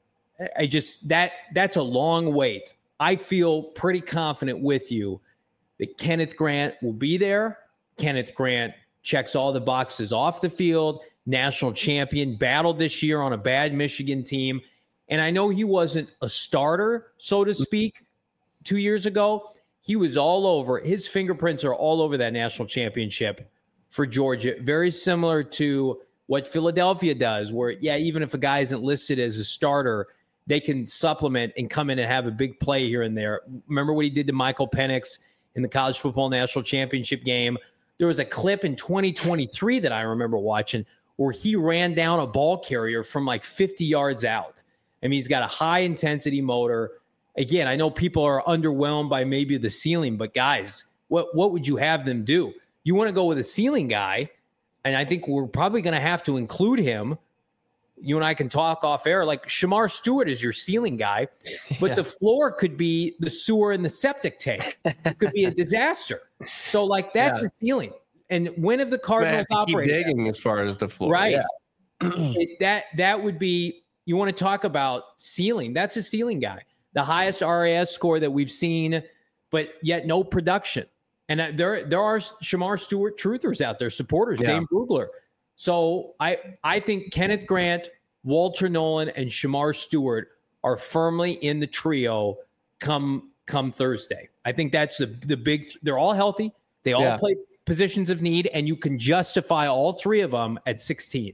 I just, that that's a long wait. I feel pretty confident with you that Kenneth Grant will be there. Kenneth Grant checks all the boxes off the field. National champion, battled this year on a bad Michigan team. And I know he wasn't a starter, so to speak, two years ago. He was all over. His fingerprints are all over that national championship for Georgia. Very similar to what Philadelphia does, where, yeah, even if a guy isn't listed as a starter, they can supplement and come in and have a big play here and there. Remember what he did to Michael Penix in the college football national championship game? There was a clip in twenty twenty-three that I remember watching where he ran down a ball carrier from like fifty yards out. I mean, he's got a high-intensity motor. Again, I know people are underwhelmed by maybe the ceiling, but guys, what, what would you have them do? You want to go with a ceiling guy, and I think we're probably going to have to include him. You and I can talk off air. Like, Shamar Stewart is your ceiling guy, but yeah. the floor could be the sewer and the septic tank. It could be a disaster. So, like, that's yeah. a ceiling. And when have the Cardinals operated? Keep digging as far as the floor. Right. Yeah. it, that that would be, you want to talk about ceiling. That's a ceiling guy. The highest R A S score that we've seen, but yet no production. And uh, there there are Shamar Stewart truthers out there, supporters, yeah. Dane Brugler. So I I think Kenneth Grant, Walter Nolan, and Shamar Stewart are firmly in the trio come come Thursday. I think that's the the big. They're all healthy. They all yeah. play positions of need, and you can justify all three of them at sixteen.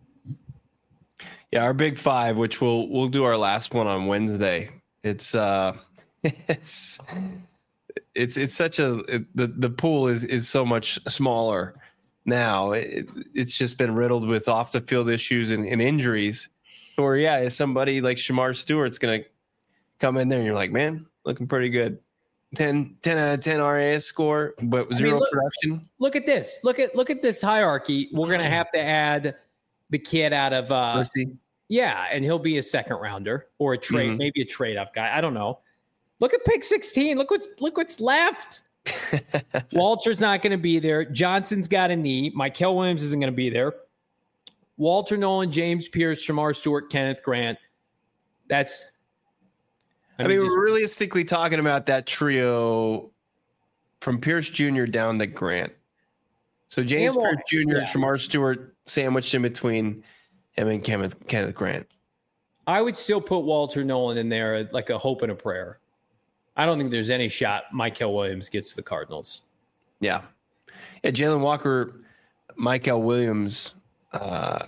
Yeah, our big five, which we'll we'll do our last one on Wednesday. It's uh, it's it's it's such a it, the the pool is is so much smaller now. It, it's just been riddled with off the field issues and, and injuries. Or yeah, is somebody like Shamar Stewart's going to come in there and you're like, man, looking pretty good. ten, ten out of ten R A S score, but zero I mean, look, production. Look at this. Look at look at this hierarchy. We're going to have to add the kid out of uh, Mercy. Yeah, and he'll be a second rounder or a trade, mm-hmm. maybe a trade up guy. I don't know. Look at pick sixteen. Look what's look what's left. Walter's not going to be there. Johnson's got a knee. Michael Williams isn't going to be there. Walter Nolan, James Pierce, Shamar Stewart, Kenneth Grant. That's. I, I mean, mean just, we're realistically talking about that trio from Pierce Junior down to Grant. So James Pierce Junior, yeah. Shamar Stewart sandwiched in between him and Kenneth, Kenneth Grant. I would still put Walter Nolan in there like a hope and a prayer. I don't think there's any shot Michael Williams gets to the Cardinals. Yeah. Yeah, Jalen Walker, Michael Williams, uh,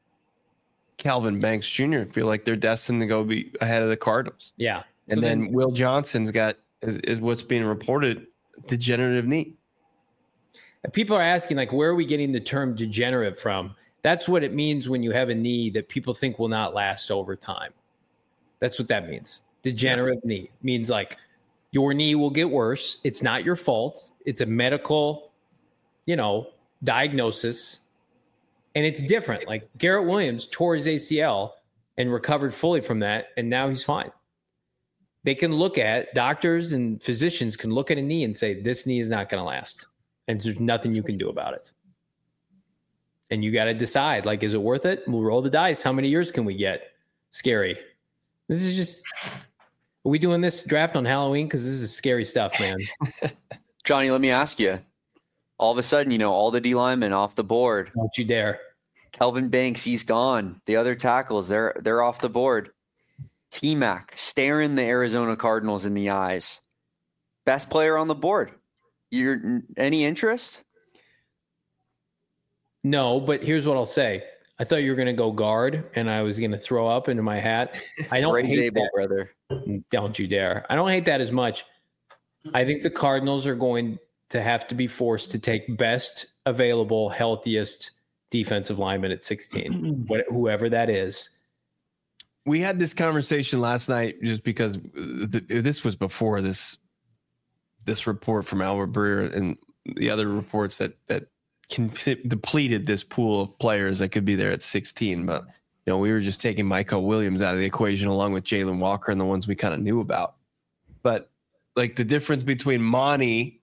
Calvin Banks Junior feel like they're destined to go be ahead of the Cardinals. Yeah. And so then, then Will Johnson's got, is, is what's being reported, degenerative knee. People are asking, like, where are we getting the term degenerate from? That's what it means when you have a knee that people think will not last over time. That's what that means. Degenerative yeah. knee means like your knee will get worse. It's not your fault. It's a medical, you know, diagnosis. And it's different. Like Garrett Williams tore his A C L and recovered fully from that. And now he's fine. They can look at, doctors and physicians can look at a knee and say, this knee is not going to last. And there's nothing you can do about it. And you got to decide, like, is it worth it? We'll roll the dice. How many years can we get? Scary. This is just, are we doing this draft on Halloween? Because this is scary stuff, man. Johnny, let me ask you. All of a sudden, you know, all the D linemen off the board. Don't you dare. Kelvin Banks, he's gone. The other tackles, they're they're off the board. T-Mac staring the Arizona Cardinals in the eyes. Best player on the board. You're any interest? No, but here's what I'll say. I thought you were going to go guard, and I was going to throw up into my hat. I don't hate able, that, brother. Don't you dare. I don't hate that as much. I think the Cardinals are going to have to be forced to take best available, healthiest defensive lineman at sixteen, what, whoever that is. We had this conversation last night just because the, this was before this this report from Albert Breer and the other reports that that can, depleted this pool of players that could be there at sixteen. But you know, we were just taking Michael Williams out of the equation along with Jalen Walker and the ones we kind of knew about. But like the difference between Monty,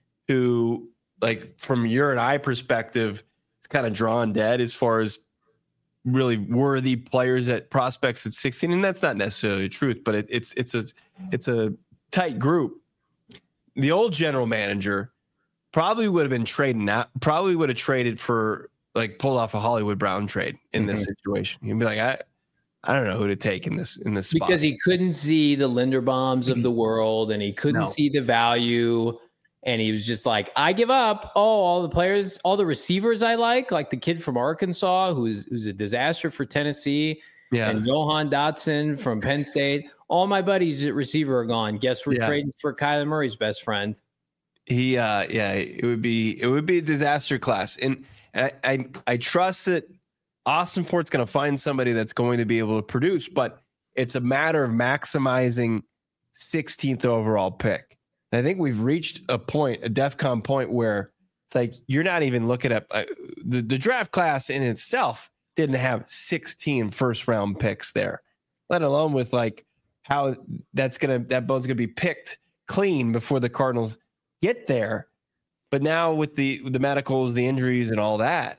who like from your and I perspective, is kind of drawn dead as far as really worthy players at prospects at sixteen, and that's not necessarily the truth, but it, it's it's a it's a tight group. The old general manager probably would have been trading out, probably would have traded for like pulled off a Hollywood Brown trade in mm-hmm. this situation. You'd be like, I I don't know who to take in this in this spot. Because he couldn't see the Linderbaums of the world, and he couldn't no. see the value. And he was just like, I give up. Oh, all the players, all the receivers I like, like the kid from Arkansas, who's who's a disaster for Tennessee, yeah. and Johan Dotson from Penn State. All my buddies at receiver are gone. Guess we're yeah. trading for Kyler Murray's best friend. He, uh, yeah, it would be it would be a disaster class, and I I, I trust that Austin Fort's going to find somebody that's going to be able to produce, but it's a matter of maximizing sixteenth overall pick. I think we've reached a point, a DEFCON point, where it's like you're not even looking at uh, the, the draft class in itself didn't have sixteen first round picks there, let alone with like how that's gonna that bone's gonna be picked clean before the Cardinals get there. But now with the with the medicals, the injuries, and all that,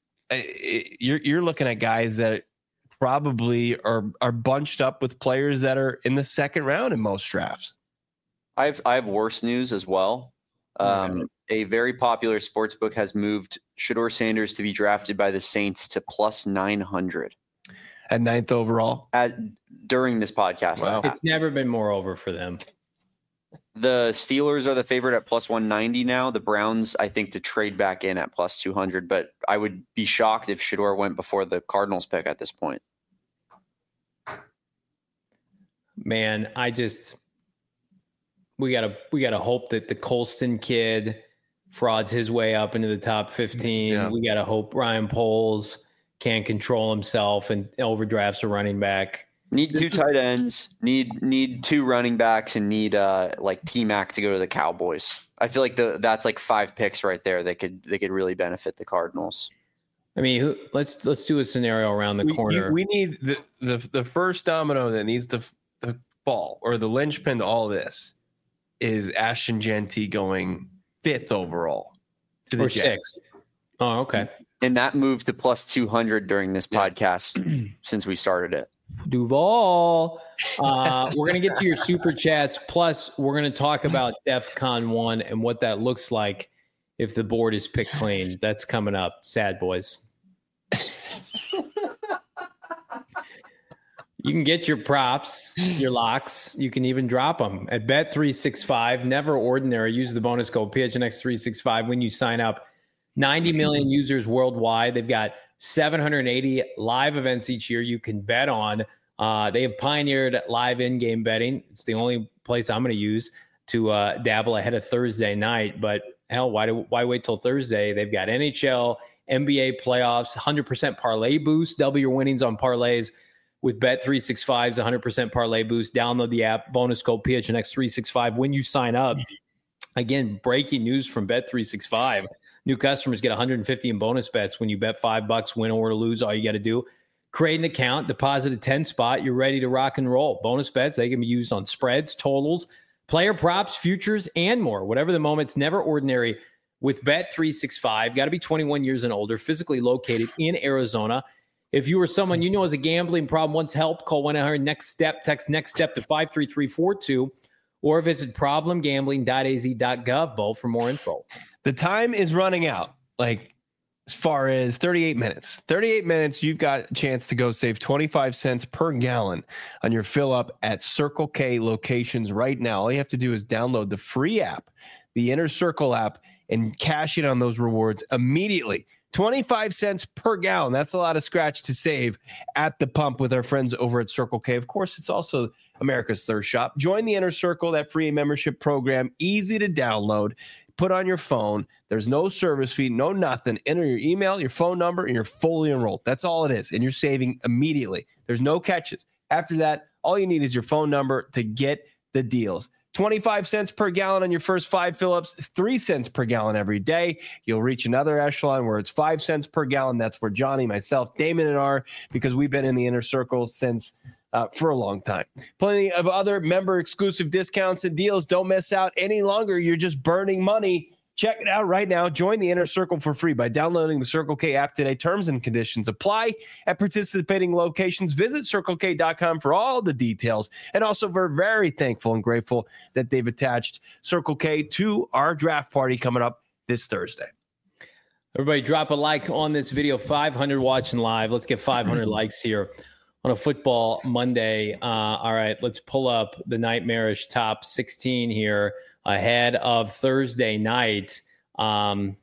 it, you're you're looking at guys that probably are are bunched up with players that are in the second round in most drafts. I've I have worse news as well. Um, yeah. A very popular sports book has moved Shedeur Sanders to be drafted by the Saints to plus nine hundred at ninth overall at during this podcast. Wow. It's never been more over for them. The Steelers are the favorite at plus one ninety now. The Browns, I think, to trade back in at plus two hundred, but I would be shocked if Shedeur went before the Cardinals pick at this point. Man, I just. we gotta we gotta hope that the Colston kid frauds his way up into the top fifteen. Yeah. We gotta hope Ryan Poles can't control himself and overdrafts a running back. Need two tight ends, need need two running backs, and need uh like T-Mac to go to the Cowboys. I feel like the that's like five picks right there that could they could really benefit the Cardinals. I mean, who, let's let's do a scenario around the we, corner. You, we need the, the the first domino that needs to, to fall, or the linchpin to all this, is Ashton Jeanty going fifth overall to the or Jets. sixth. Oh, okay. And that moved to plus two hundred during this yeah. podcast since we started it. Duval. Uh, we're going to get to your super chats. Plus, we're going to talk about DEFCON one and what that looks like if the board is picked clean. That's coming up. Sad boys. You can get your props, your locks. You can even drop them at Bet three sixty-five. Never ordinary. Use the bonus code P H N X three sixty-five when you sign up. ninety million users worldwide. They've got seven hundred eighty live events each year you can bet on. Uh, they have pioneered live in-game betting. It's the only place I'm going to use to uh, dabble ahead of Thursday night. But hell, why do why wait till Thursday? They've got N H L, N B A playoffs, one hundred percent parlay boost. Double your winnings on parlays with Bet three sixty-five's one hundred percent parlay boost. Download the app. Bonus code P H N X three sixty-five when you sign up. Again, breaking news from Bet three sixty-five. New customers get one hundred fifty in bonus bets when you bet five bucks, win or lose. All you got to do, create an account, deposit a ten spot. You're ready to rock and roll. Bonus bets, they can be used on spreads, totals, player props, futures, and more. Whatever the moment, it's never ordinary with Bet three sixty-five. Got to be twenty-one years and older, physically located in Arizona. If you or someone you know has a gambling problem, wants help, call one eight hundred next step, text next step to five three three four two, or visit problem gambling dot a z dot gov, Bo, for more info. The time is running out. Like, as far as thirty-eight minutes. thirty-eight minutes, you've got a chance to go save twenty-five cents per gallon on your fill up at Circle K locations right now. All you have to do is download the free app, the Inner Circle app, and cash in on those rewards immediately. twenty-five cents per gallon. That's a lot of scratch to save at the pump with our friends over at Circle K. Of course, it's also America's Thirst Shop. Join the Inner Circle, that free membership program. Easy to download. Put on your phone. There's no service fee, no nothing. Enter your email, your phone number, and you're fully enrolled. That's all it is. And you're saving immediately. There's no catches. After that, all you need is your phone number to get the deals. twenty-five cents per gallon on your first five fill-ups, three cents per gallon every day. You'll reach another echelon where it's five cents per gallon. That's where Johnny, myself, Damon, and are, because we've been in the Inner Circle since uh, for a long time. Plenty of other member-exclusive discounts and deals. Don't miss out any longer. You're just burning money. Check it out right now. Join the Inner Circle for free by downloading the Circle K app today. Terms and conditions apply at participating locations. Visit circle k dot com for all the details. And also, we're very thankful and grateful that they've attached Circle K to our draft party coming up this Thursday. Everybody drop a like on this video. five hundred watching live. Let's get five hundred likes here on a football Monday. Uh, all right, let's pull up the nightmarish top sixteen here ahead of Thursday night. Um,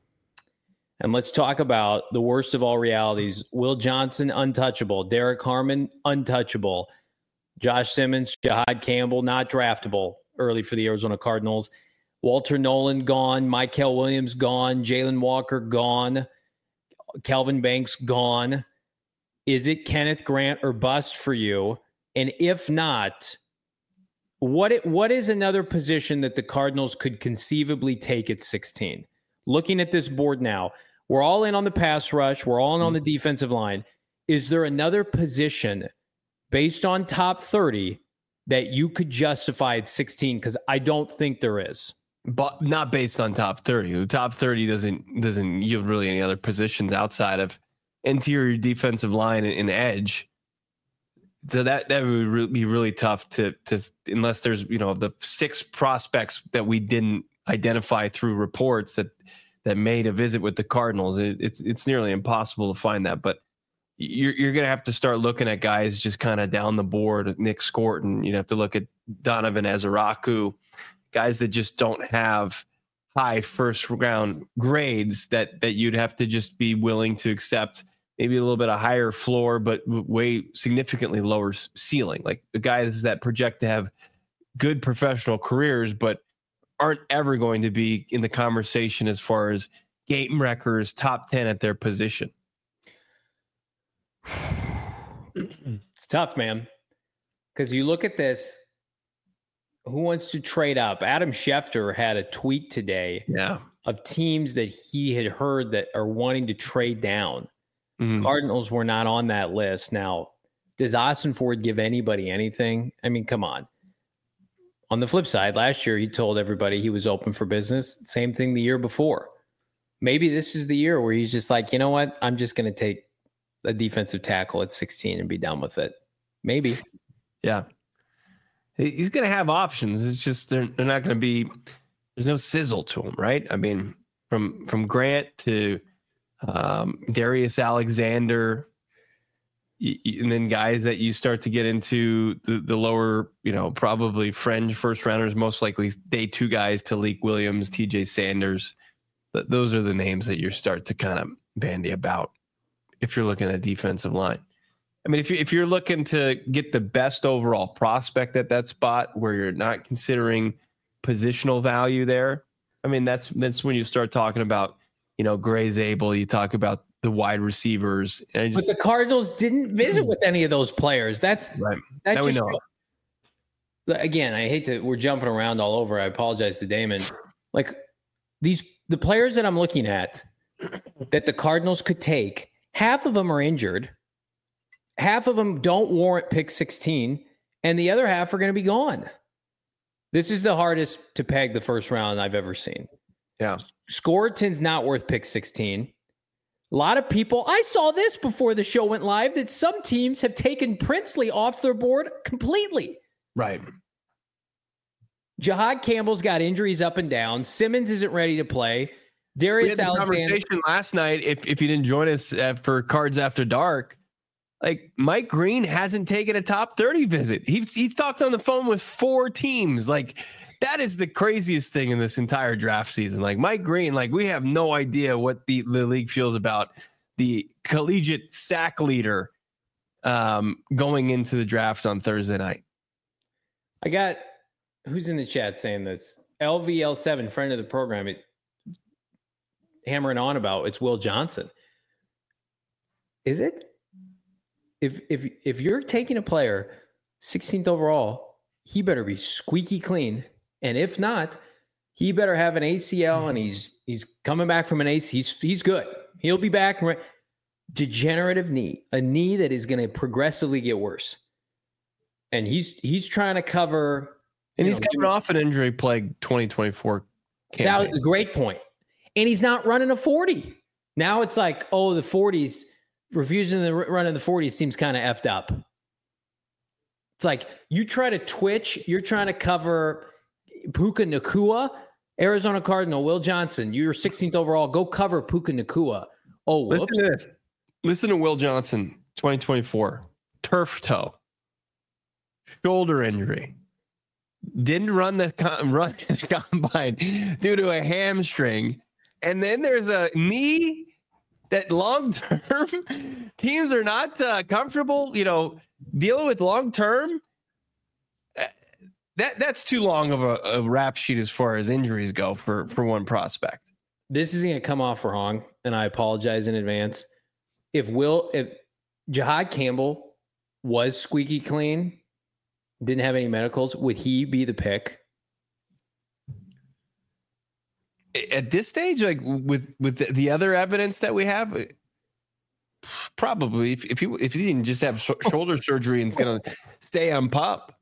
and let's talk about the worst of all realities. Will Johnson, untouchable. Derek Harmon, untouchable. Josh Simmons, Jahad Campbell, not draftable early for the Arizona Cardinals. Walter Nolan, gone. Mykel Williams, gone. Jalen Walker, gone. Kelvin Banks, gone. Is it Kenneth Grant or bust for you? And if not, What it, what is another position that the Cardinals could conceivably take at sixteen? Looking at this board now, we're all in on the pass rush. We're all in on the defensive line. Is there another position based on top thirty that you could justify at sixteen? Because I don't think there is. But not based on top thirty. The top thirty doesn't doesn't yield really any other positions outside of interior defensive line and, and edge. So that that would re- be really tough to to unless there's, you know, the six prospects that we didn't identify through reports that that made a visit with the Cardinals. It, it's it's nearly impossible to find that. But you're you're gonna have to start looking at guys just kind of down the board. Nick Scorton. You'd have to look at Donovan Ezeraku, guys that just don't have high first round grades that that you'd have to just be willing to accept. Maybe a little bit of higher floor, but way significantly lower ceiling. Like the guys that project to have good professional careers, but aren't ever going to be in the conversation as far as game wreckers, top ten at their position. It's tough, man. Because you look at this, who wants to trade up? Adam Schefter had a tweet today yeah. of teams that he had heard that are wanting to trade down. Mm-hmm. Cardinals were not on that list. Now, does Austin Ford give anybody anything? I mean, come on. On the flip side, last year he told everybody he was open for business. Same thing the year before. Maybe this is the year where he's just like, you know what? I'm just going to take a defensive tackle at sixteen and be done with it. Maybe. Yeah. He's going to have options. It's just they're, they're not going to be – there's no sizzle to him, right? I mean, from from Grant to um, Darius Alexander – and then guys that you start to get into the, the lower, you know, probably fringe first rounders, most likely day two guys, Talik Williams, T J Sanders. But those are the names that you start to kind of bandy about if you're looking at defensive line. I mean, if, you, if you're looking to get the best overall prospect at that spot where you're not considering positional value there, I mean, that's that's when you start talking about, you know, Gray Zabel, you talk about the wide receivers. And I just, but the Cardinals didn't visit with any of those players. That's right. That now just, we know. Again, I hate to, we're jumping around all over. I apologize to Damon. Like these, the players that I'm looking at that the Cardinals could take, half of them are injured. Half of them don't warrant pick sixteen, and the other half are going to be gone. This is the hardest to peg the first round I've ever seen. Yeah. Scoreton's not worth pick sixteen. A lot of people, I saw this before the show went live, that some teams have taken Princely off their board completely. Right. Jahad Campbell's got injuries up and down. Simmons isn't ready to play. Darius we had Alexander. Conversation last night, if, if you didn't join us uh, for Cards After Dark, like Mike Green hasn't taken a top thirty visit. He's, he's talked on the phone with four teams. Like, that is the craziest thing in this entire draft season. Like Mike Green, like we have no idea what the, the league feels about the collegiate sack leader um, going into the draft on Thursday night. I got, who's in the chat saying this? L V L seven, friend of the program, it, hammering on about it's Will Johnson. Is it? If if if you're taking a player sixteenth overall, he better be squeaky clean. And if not, he better have an A C L, and he's he's coming back from an A C L. He's he's good. He'll be back. Degenerative knee, a knee that is going to progressively get worse. And he's he's trying to cover. And he's know, coming off an injury plague twenty twenty-four campaign. That, great point. And he's not running a forty. Now it's like, oh, the forties, refusing to run in the forties seems kind of effed up. It's like you try to twitch, you're trying to cover Puka Nacua, Arizona Cardinal, Will Johnson. You're sixteenth overall. Go cover Puka Nacua. Oh, whoops. Listen to this. Listen to Will Johnson, twenty twenty-four. Turf toe. Shoulder injury. Didn't run the run the combine due to a hamstring. And then there's a knee that long-term teams are not uh, comfortable, you know, dealing with long-term. That that's too long of a, a rap sheet as far as injuries go for, for one prospect. This is going to come off wrong, and I apologize in advance. If Will, if Jahad Campbell was squeaky clean, didn't have any medicals, would he be the pick? At this stage, like with with the, the other evidence that we have, probably if if he if he didn't just have sh- shoulder surgery and is going to stay on pup.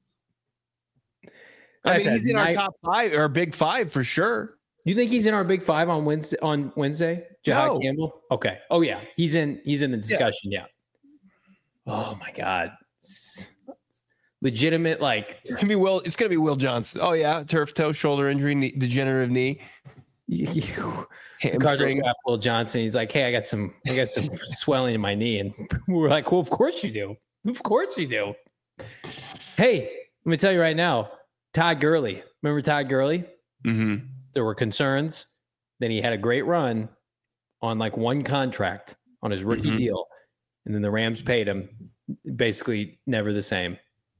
I That's mean, he's in night- our top five or big five for sure. You think he's in our big five on Wednesday? On Wednesday, Jahad No. Campbell. Okay. Oh yeah, he's in. He's in the discussion. Yeah. yeah. Oh my God. Legitimate, like It's gonna be Will. It's gonna be Will Johnson. Oh yeah, turf toe, shoulder injury, knee, degenerative knee. the Cardinals draft Will Johnson. He's like, hey, I got some, I got some swelling in my knee, and we're like, well, of course you do, of course you do. Hey, let me tell you right now, Todd Gurley. Remember Todd Gurley? Mm-hmm. There were concerns. Then he had a great run on like one contract on his rookie Mm-hmm. deal, and then the Rams paid him. Basically, never the same.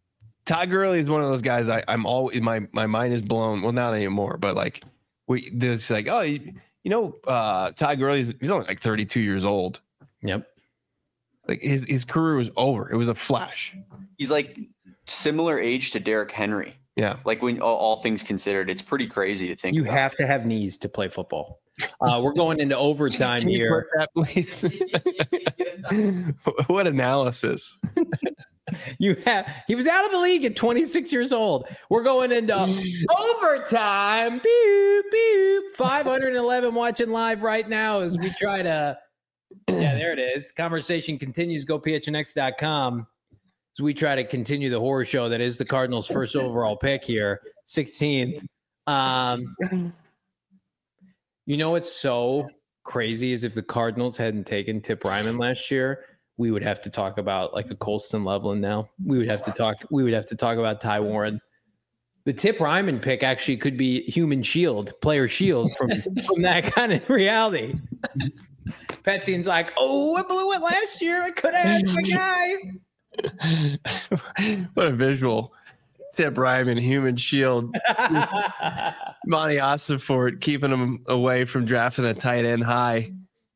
Todd Gurley is one of those guys. I, I'm always my my mind is blown. Well, not anymore, but like we there's like oh you, you know uh, Todd Gurley he's only like thirty-two years old. Yep. Like his his career was over. It was a flash. He's like similar age to Derrick Henry. Yeah. Like when all, all things considered, it's pretty crazy to think You about. have to have knees to play football. Uh, we're going into overtime Can you here. put that, please? What analysis? You have he was out of the league at twenty-six years old. We're going into overtime. Beep, beep. five hundred eleven watching live right now as we try to yeah, there it is. Conversation continues. Go P H N X dot com as we try to continue the horror show that is the Cardinals' first overall pick here, sixteenth. Um, you know what's so crazy is if the Cardinals hadn't taken Tip Ryman last year, we would have to talk about like a Colston Loveland now. We would have to talk. We would have to talk about Ty Warren. The Tip Ryman pick actually could be human shield, player shield from, from that kind of reality. Petzine's like, oh, I blew it last year. I could have had my guy. What a visual. Tip Ryman, human shield. Monty Ossenfort keeping him away from drafting a tight end high.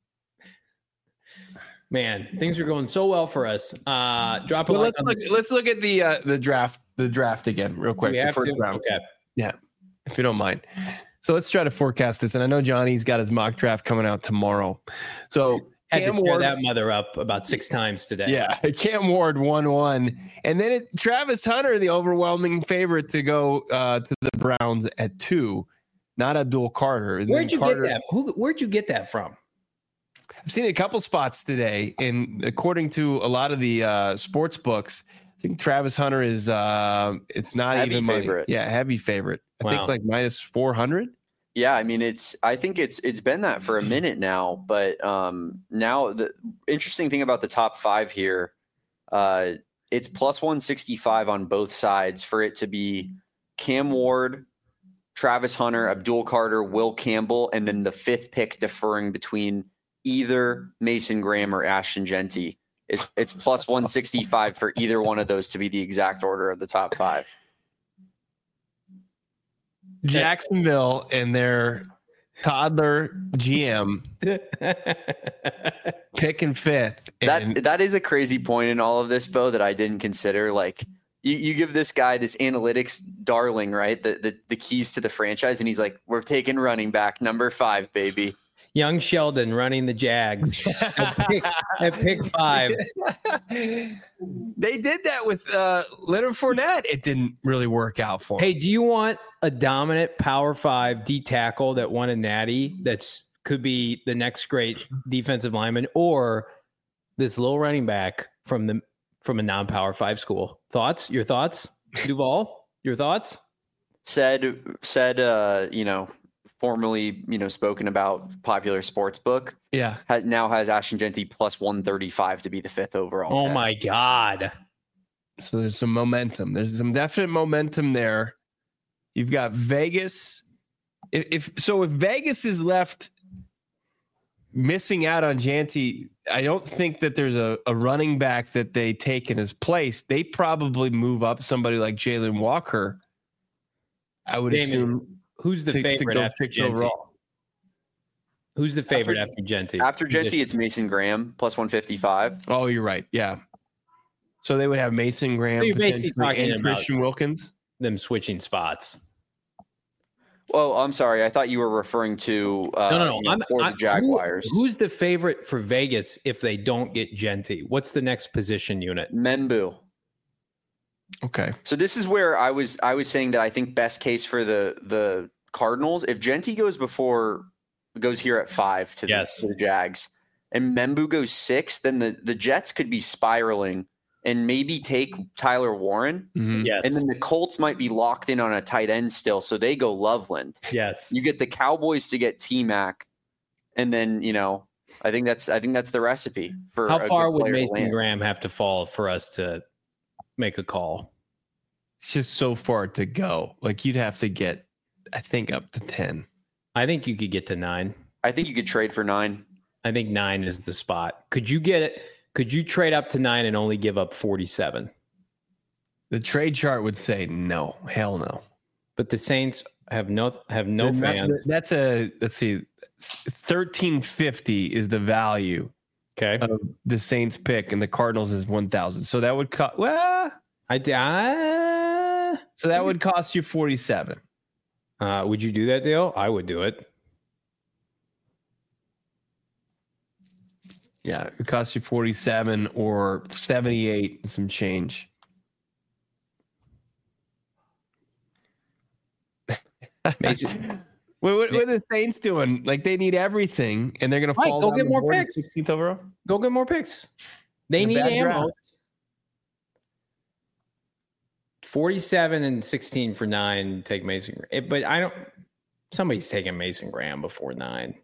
Man, things are going so well for us. Uh, drop a well, like let's look. Let's look at the uh, the draft. The draft again, real quick. We have the first to? round. Okay. Yeah, if you don't mind. So let's try to forecast this. And I know Johnny's got his mock draft coming out tomorrow. So had Cam to tear Ward, that mother up about six times today. yeah, Cam Ward one one, and then it, Travis Hunter, the overwhelming favorite to go uh, to the Browns at two, not Abdul Carter. And Where'd then you Carter, get that? Who? Where'd you get that from? I've seen it a couple spots today, and according to a lot of the uh, sports books, I think Travis Hunter is uh, it's not Heavy even money. favorite. Yeah, heavy favorite. I Wow. think like minus four hundred. Yeah, I mean it's I think it's it's been that for a minute now, but um now the interesting thing about the top five here, uh it's plus one sixty-five on both sides for it to be Cam Ward, Travis Hunter, Abdul Carter, Will Campbell, and then the fifth pick deferring between either Mason Graham or Ashton Genty. It's it's plus one sixty-five for either one of those to be the exact order of the top five. Jacksonville and their toddler G M picking fifth. And That that is a crazy point in all of this, Bo, that I didn't consider. Like you, you give this guy this analytics darling, right? The, the the keys to the franchise, and he's like, "We're taking running back number five, baby." Young Sheldon running the Jags at, pick, at pick five. they did that with uh, Leonard Fournette. It didn't really work out for him. Hey, do you want a dominant Power Five D tackle that won a natty that's could be the next great defensive lineman, or this little running back from the from a non-Power Five school? Thoughts? Your thoughts, Duval? Your thoughts? Said said, uh, you know, formerly, you know, spoken about popular sports book. Yeah. Ha- now has Ashton Genty plus one thirty-five to be the fifth overall. Oh pick. my God! So there's some momentum. There's some definite momentum there. You've got Vegas. If, if so, if Vegas is left missing out on Genty, I don't think that there's a, a running back that they take in his place. They probably move up somebody like Jalen Walker. I would Damon, assume. Who's the to- to favorite go after sixth Genty? overall. Who's the favorite After- after, Genty? After Genty, Position. it's Mason Graham plus one fifty-five. Oh, you're right. Yeah. So they would have Mason Graham So you're basically potentially, talking and about- Christian Wilkins. them switching spots. Oh, I'm sorry. I thought you were referring to uh, No, no, no. you know, I'm, for I'm- the Jaguars. who- who's the favorite for Vegas if they don't get Genty? What's the next position unit? Membu. Okay. So this is where I was I was saying that I think best case for the the Cardinals, if Genty goes before goes here at five to the, Yes. to the Jags and Membu goes six, then the, the Jets could be spiraling and maybe take Tyler Warren. Mhm. Yes. And then the Colts might be locked in on a tight end still. So they go Loveland. yes. You get the Cowboys to get T-Mac. And then, you know, I think that's I think that's the recipe for How a far good would player to Mason land. Graham have to fall for us to make a call? It's just so far to go. Like you'd have to get, I think, up to ten. I think you could get to nine. I think you could trade for nine. I think nine is the spot. Could you get it? Could you trade up to nine and only give up forty-seven? The trade chart would say no, hell no. But the Saints have no have no They're fans. Not, that's a let's see, thirteen fifty is the value. Okay, of the Saints pick, and the Cardinals is one thousand. So that would cost. Well, I uh, so that would cost you forty-seven. Uh, would you do that deal? I would do it. Yeah, it costs you forty-seven or seventy-eight and some change. Mason. What, what, what are the Saints doing? Like, they need everything, and they're going Right, to fall go down get the more board picks. sixteenth overall? Go get more picks. They A need bad ammo. draft. forty-seven and sixteen for nine. Take Mason. It, but I don't. Somebody's taking Mason Graham before nine.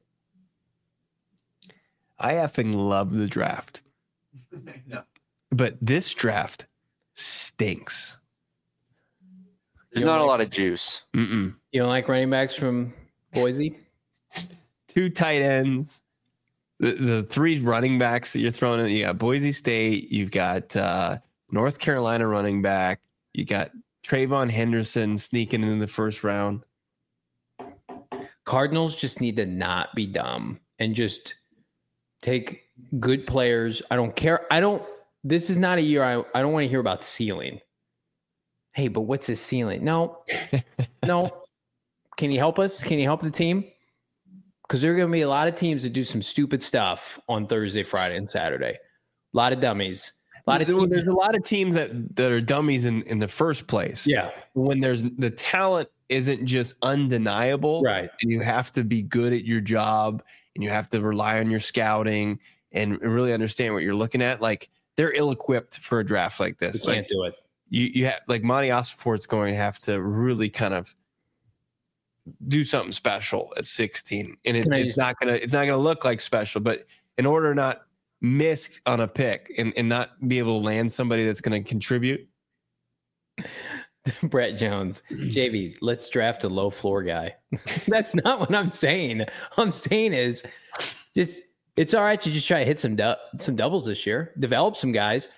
I effing love the draft. No. But this draft stinks. There's not a lot of juice. Mm-mm. You don't like running backs from Boise? Two tight ends. The, the three running backs that you're throwing in, you got Boise State, you've got uh, North Carolina running back, you got Trayvon Henderson sneaking in the first round. Cardinals just need to not be dumb and just take good players. I don't care. I don't. This is not a year I, I don't want to hear about ceiling. Hey, but what's his ceiling? No, no. Can you help us? Can you help the team? Because there are going to be a lot of teams that do some stupid stuff on Thursday, Friday, and Saturday. A lot of dummies. A lot of teams. There's a lot of teams that, that are dummies in, in the first place. Yeah. When there's the talent isn't just undeniable. Right. And you have to be good at your job and you have to rely on your scouting and really understand what you're looking at. Like, they're ill-equipped for a draft like this. You Like, can't do it. You you have like Monty Ossenfort's going to have to really kind of do something special at sixteen, and it, Can I it's just- not gonna it's not gonna look like special. But in order to not miss on a pick and, and not be able to land somebody that's going to contribute, Brett Jones, J V, let's draft a low floor guy. That's not what I'm saying. All I'm saying is just it's all right to just try to hit some du- some doubles this year, develop some guys.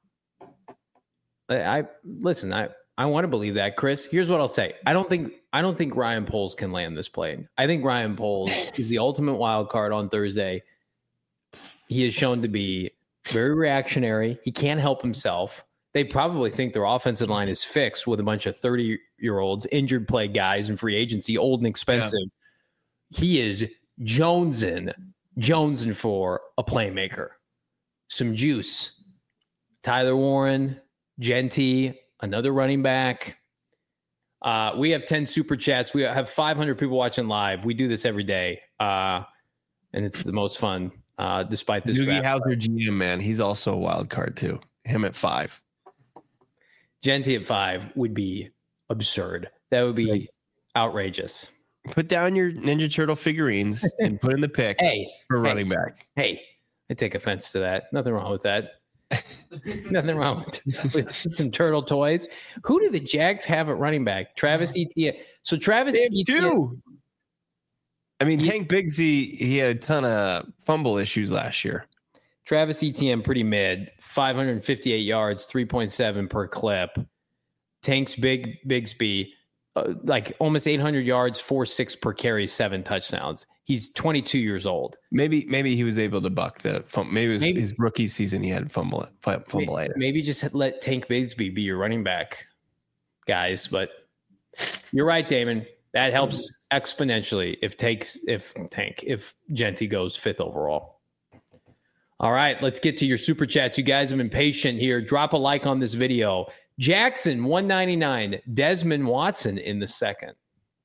I, I listen, I, I want to believe that, Chris. Here's what I'll say. I don't think I don't think Ryan Poles can land this plane. I think Ryan Poles is the ultimate wild card on Thursday. He is shown to be very reactionary. He can't help himself. They probably think their offensive line is fixed with a bunch of thirty-year-olds, injured play guys in free agency, old and expensive. Yeah. He is jonesing, jonesing for a playmaker. Some juice. Tyler Warren, Genty, another running back. Uh, we have ten super chats. We have five hundred people watching live. We do this every day, uh, and it's the most fun, uh, despite this. Doogie Howser G M, man, he's also a wild card too. Him at five. Genty at five would be absurd. That would be like, outrageous. Put down your Ninja Turtle figurines and put in the pick hey, for hey, running back. Hey, I take offense to that. Nothing wrong with that. Nothing wrong with, with some turtle toys. Who do the Jags have at running back? Travis Etienne. So Travis Etienne. Two. I mean, he, Tank Bigsby, he had a ton of fumble issues last year. Travis Etienne, pretty mid, five hundred fifty-eight yards, three point seven per clip. Tank's big Bigsby, uh, like almost eight hundred yards, four six per carry, seven touchdowns. He's twenty-two years old. Maybe maybe he was able to buck the fumble. Maybe it was maybe, his rookie season he had fumble fumble maybe, maybe just let Tank Bigsby be your running back, guys. But you're right, Damon. That helps exponentially if takes if Tank if Genty goes fifth overall. All right, let's get to your super chats. You guys have been patient here. Drop a like on this video. Jackson one ninety-nine, Desmond Watson in the second.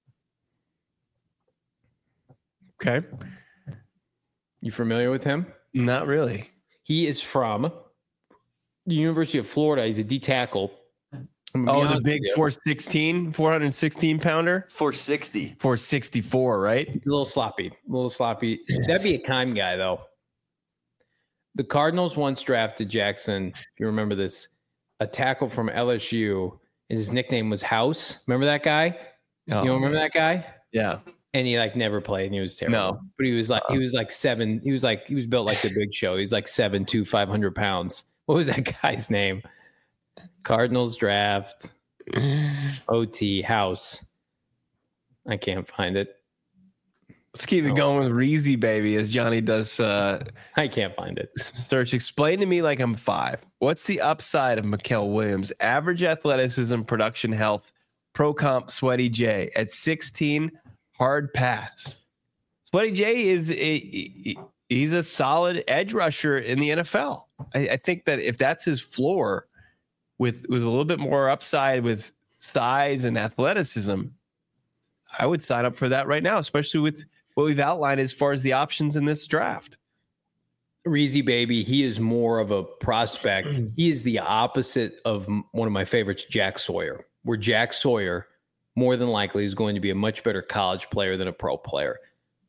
Okay. You familiar with him? Not really. He is from the University of Florida. He's a D tackle. Oh, the big four sixteen, four sixteen pounder? four sixty. four sixty-four, right? A little sloppy. A little sloppy. That'd be a Kime guy, though. The Cardinals once drafted Jackson, if you remember this, a tackle from L S U, and his nickname was House. Remember that guy? Oh. You don't remember that guy? Yeah. And he like never played, and he was terrible. No. But he was like he was like seven. He was like he was built like the Big Show. He's like seven two, five hundred pounds. What was that guy's name? Cardinals draft. O T house. I can't find it. Let's keep it oh. going with Reezy Baby as Johnny does. Uh, I can't find it. Search. Explain to me like I'm five. What's the upside of Mikael Williams? Average athleticism, production health, pro comp, Sweaty J. At sixteen, hard pass. Sweaty J is a, he's a solid edge rusher in the N F L. I, I think that if that's his floor, with with a little bit more upside with size and athleticism, I would sign up for that right now, especially with what we've outlined as far as the options in this draft. Reezy Baby, he is more of a prospect. He is the opposite of one of my favorites, Jack Sawyer, where Jack Sawyer more than likely is going to be a much better college player than a pro player.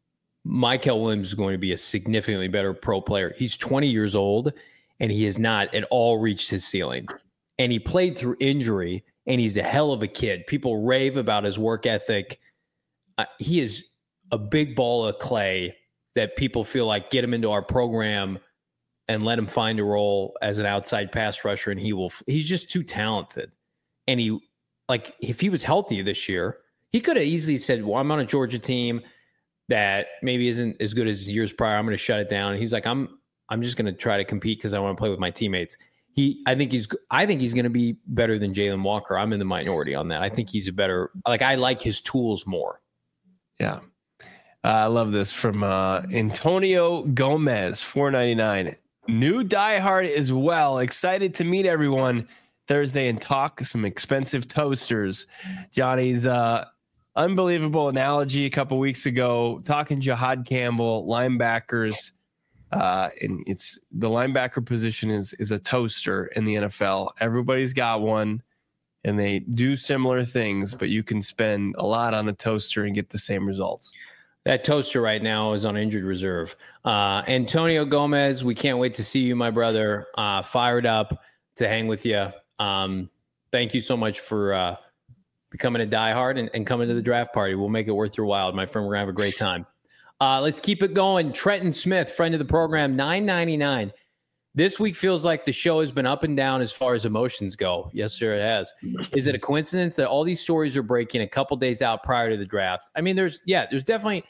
Mikael Williams is going to be a significantly better pro player. He's twenty years old, and he has not at all reached his ceiling. And he played through injury, and he's a hell of a kid. People rave about his work ethic. Uh, he is a big ball of clay that people feel like get him into our program and let him find a role as an outside pass rusher, and he will. He's just too talented. And he, like, if he was healthy this year, he could have easily said, well, I'm on a Georgia team that maybe isn't as good as years prior. I'm going to shut it down. And he's like, I'm, I'm just going to try to compete because I want to play with my teammates. He, I think he's, I think he's going to be better than Jalen Walker. I'm in the minority on that. I think he's a better, like, I like his tools more. Yeah. Uh, I love this from uh, Antonio Gomez, four ninety-nine. New diehard as well. Excited to meet everyone Thursday and talk some expensive toasters. Johnny's uh, unbelievable analogy a couple weeks ago, talking Jihad Campbell, linebackers. Uh, and it's the linebacker position is is a toaster in the N F L. Everybody's got one, and they do similar things, but you can spend a lot on a toaster and get the same results. That toaster right now is on injured reserve. Uh, Antonio Gomez, we can't wait to see you, my brother. Uh, fired up to hang with you. Um, thank you so much for uh, becoming a diehard and, and coming to the draft party. We'll make it worth your while, my friend. We're going to have a great time. Uh, let's keep it going. Trenton Smith, friend of the program, nine ninety-nine. This week feels like the show has been up and down as far as emotions go. Yes, sir, it has. Is it a coincidence that all these stories are breaking a couple days out prior to the draft? I mean, there's, yeah, there's definitely,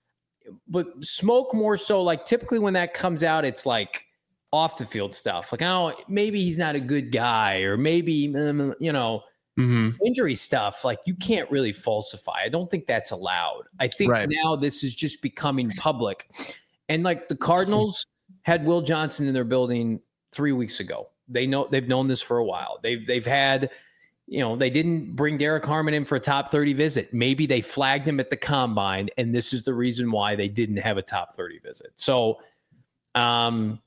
but smoke more so. Like, typically when that comes out, it's like off the field stuff. Like, oh, maybe he's not a good guy, or maybe, you know, mm-hmm. injury stuff. Like, you can't really falsify. I don't think that's allowed. I think right. now this is just becoming public. And like the Cardinals had Will Johnson in their building three weeks ago. They know they've known this for a while. They've they've had, you know, they didn't bring Derek Harmon in for a top thirty visit. Maybe they flagged him at the combine, and this is the reason why they didn't have a top thirty visit. So, um,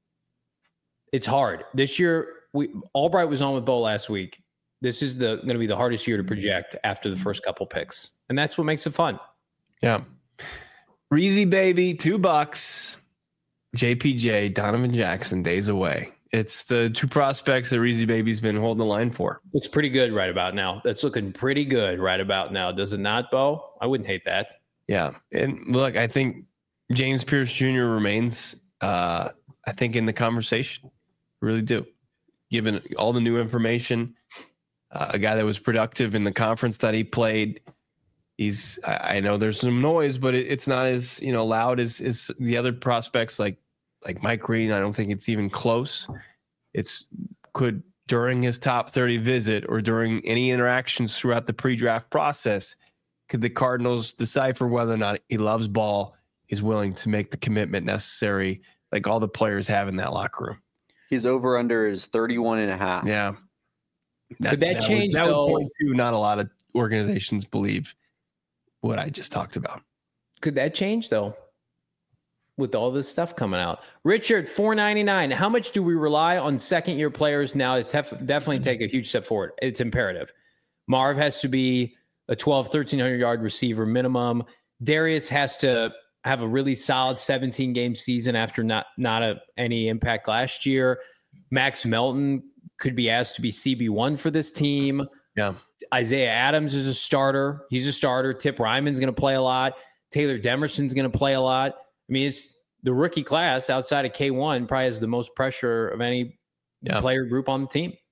it's hard this year. We Albright was on with Bo last week. This is the going to be the hardest year to project after the first couple picks, and that's what makes it fun. Yeah, Reezy Baby, two bucks. J P J, Donovan Jackson, days away. It's the two prospects that Reezy Baby's been holding the line for. Looks pretty good right about now. That's looking pretty good right about now. Does it not, Bo? I wouldn't hate that. Yeah. And look, I think James Pierce Junior remains, uh, I think, in the conversation. Really do. Given all the new information, uh, a guy that was productive in the conference that he played. He's, I, I know there's some noise, but it, it's not as, you know, loud as, as the other prospects like, like Mike Green. I don't think it's even close. It's could during his top thirty visit or during any interactions throughout the pre-draft process, could the Cardinals decipher whether or not he loves ball, is willing to make the commitment necessary, like all the players have in that locker room. His over under is thirty-one and a half. Yeah. That, could that, that change? Would, that though, would point to not a lot of organizations believe what I just talked about. Could that change though? With all this stuff coming out. Richard, four ninety-nine. How much do we rely on second year players now to tef- definitely take a huge step forward? It's imperative. Marv has to be a twelve, thirteen hundred yard receiver minimum. Darius has to have a really solid seventeen game season after not, not a, any impact last year. Max Melton could be asked to be C B one for this team. Yeah. Isaiah Adams is a starter. He's a starter. Tip Ryman's going to play a lot. Taylor Demerson's going to play a lot. I mean, it's the rookie class outside of K one probably has the most pressure of any yeah. player group on the team.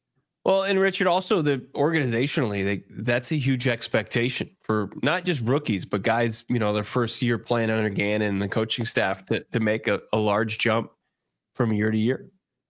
Well, and Richard, also the organizationally, they, that's a huge expectation for not just rookies, but guys, you know, their first year playing under Gannon and the coaching staff to, to make a, a large jump from year to year.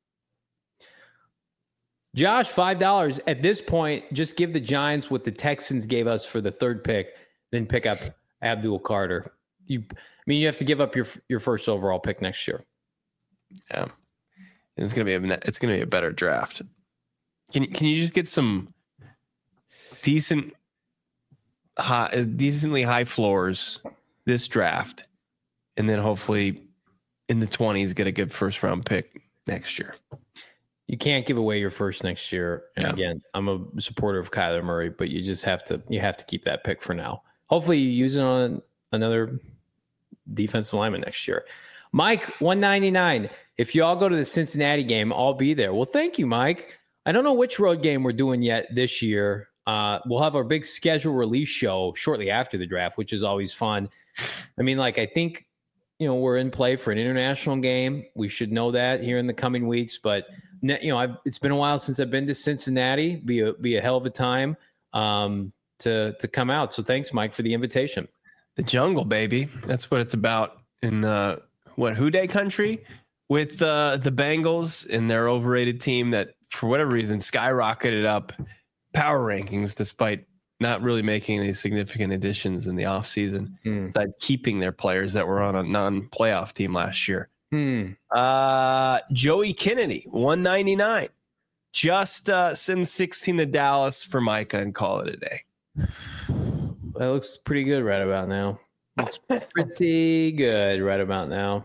Josh, five dollars. At this point, just give the Giants what the Texans gave us for the third pick, then pick up Abdul Carter. You, I mean, you have to give up your your first overall pick next year. Yeah, it's gonna be a it's gonna be a better draft. Can can you just get some decent, high, decently high floors this draft, and then hopefully in the twenties get a good first round pick next year? You can't give away your first next year. And yeah. Again, I'm a supporter of Kyler Murray, but you just have to you have to keep that pick for now. Hopefully you use it on another defensive lineman next year. Mike, one ninety-nine. If you all go to the Cincinnati game, I'll be there. Well, thank you, Mike. I don't know which road game we're doing yet this year. Uh, we'll have our big schedule release show shortly after the draft, which is always fun. I mean, like, I think, you know, we're in play for an international game. We should know that here in the coming weeks, but you know, I've, it's been a while since I've been to Cincinnati. Be a be a hell of a time um, to to come out. So thanks, Mike, for the invitation. The jungle, baby. That's what it's about in the what Houday country with uh, the Bengals and their overrated team that, for whatever reason, skyrocketed up power rankings despite not really making any significant additions in the offseason, mm. besides keeping their players that were on a non-playoff team last year. Hmm. Uh, Joey Kennedy, one ninety-nine. Just uh, send sixteen to Dallas for Micah and call it a day. That looks pretty good right about now. Looks pretty good right about now.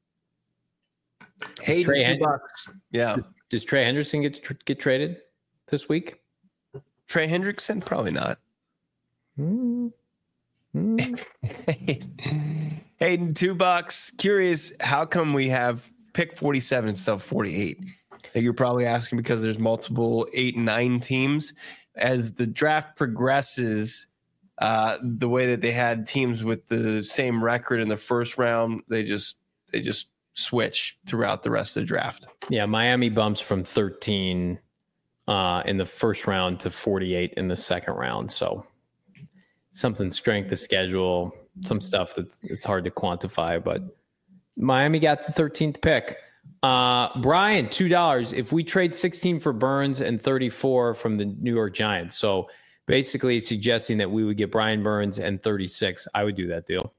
Hey, Trey Hen- bucks. Yeah. Does, does Trey Henderson get tr- get traded this week? Trey Hendrickson? Probably not. Hmm. Hmm. Hayden, two bucks. Curious, how come we have pick forty-seven instead of forty-eight? You're probably asking because there's multiple eight and nine teams. As the draft progresses, uh, the way that they had teams with the same record in the first round, they just they just switch throughout the rest of the draft. Yeah, Miami bumps from thirteen uh, in the first round to forty-eight in the second round. So something strength of schedule. Some stuff that's it's hard to quantify, but Miami got the thirteenth pick. Uh, Brian, two dollars. If we trade sixteen for Burns and thirty-four from the New York Giants, so basically suggesting that we would get Brian Burns and thirty-six, I would do that deal.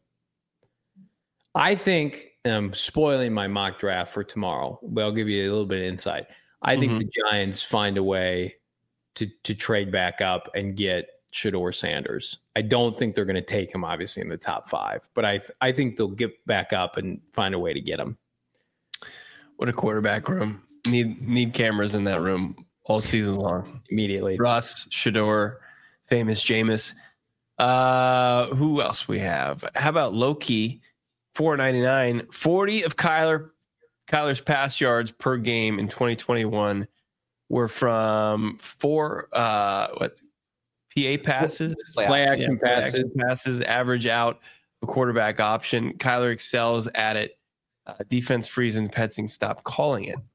I think, and I'm spoiling my mock draft for tomorrow, but I'll give you a little bit of insight. I mm-hmm. think the Giants find a way to to trade back up and get Shedeur Sanders. I don't think they're going to take him, obviously, in the top five, but I I think they'll get back up and find a way to get him. What a quarterback room. Need need cameras in that room all season long. Immediately. Russ, Shedeur, famous Jameis. Uh, who else we have? How about Loki? four ninety-nine. forty of Kyler. Kyler's pass yards per game in twenty twenty-one were from four uh what P A passes, play, play action, yeah, passes. Play action passes, average out a quarterback option. Kyler excels at it. Uh, defense frees and Petzing stop calling it.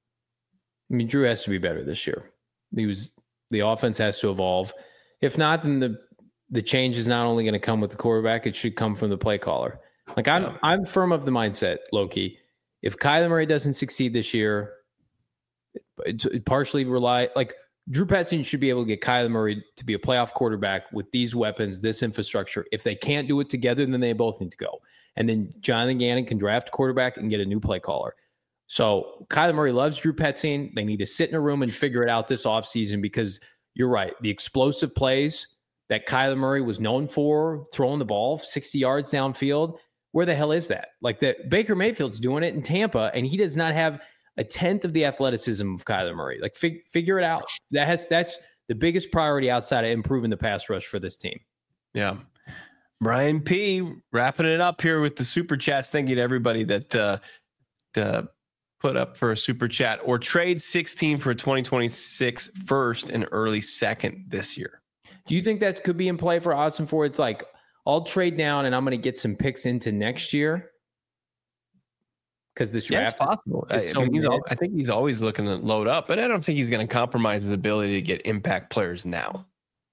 I mean, Drew has to be better this year. He was the offense has to evolve. If not, then the the change is not only going to come with the quarterback; it should come from the play caller. Like I'm, yeah. I'm firm of the mindset, Loki. If Kyler Murray doesn't succeed this year, it, it partially rely like Drew Petzing should be able to get Kyler Murray to be a playoff quarterback with these weapons, this infrastructure. If they can't do it together, then they both need to go. And then Jonathan Gannon can draft a quarterback and get a new play caller. So Kyler Murray loves Drew Petzing. They need to sit in a room and figure it out this offseason because you're right. The explosive plays that Kyler Murray was known for, throwing the ball sixty yards downfield, where the hell is that? Like that Baker Mayfield's doing it in Tampa, and he does not have a tenth of the athleticism of Kyler Murray. Like fig- figure it out. That has that's the biggest priority outside of improving the pass rush for this team. Yeah. Brian P. wrapping it up here with the super chats. Thank you to everybody that uh, uh, put up for a super chat or trade sixteen for a twenty twenty-six first and early second this year. Do you think that could be in play for Austin Ford? It's like, I'll trade down and I'm going to get some picks into next year. because this yeah, draft it's possible. I, so I, mean, he's mid. al- I think he's always looking to load up, but I don't think he's going to compromise his ability to get impact players now.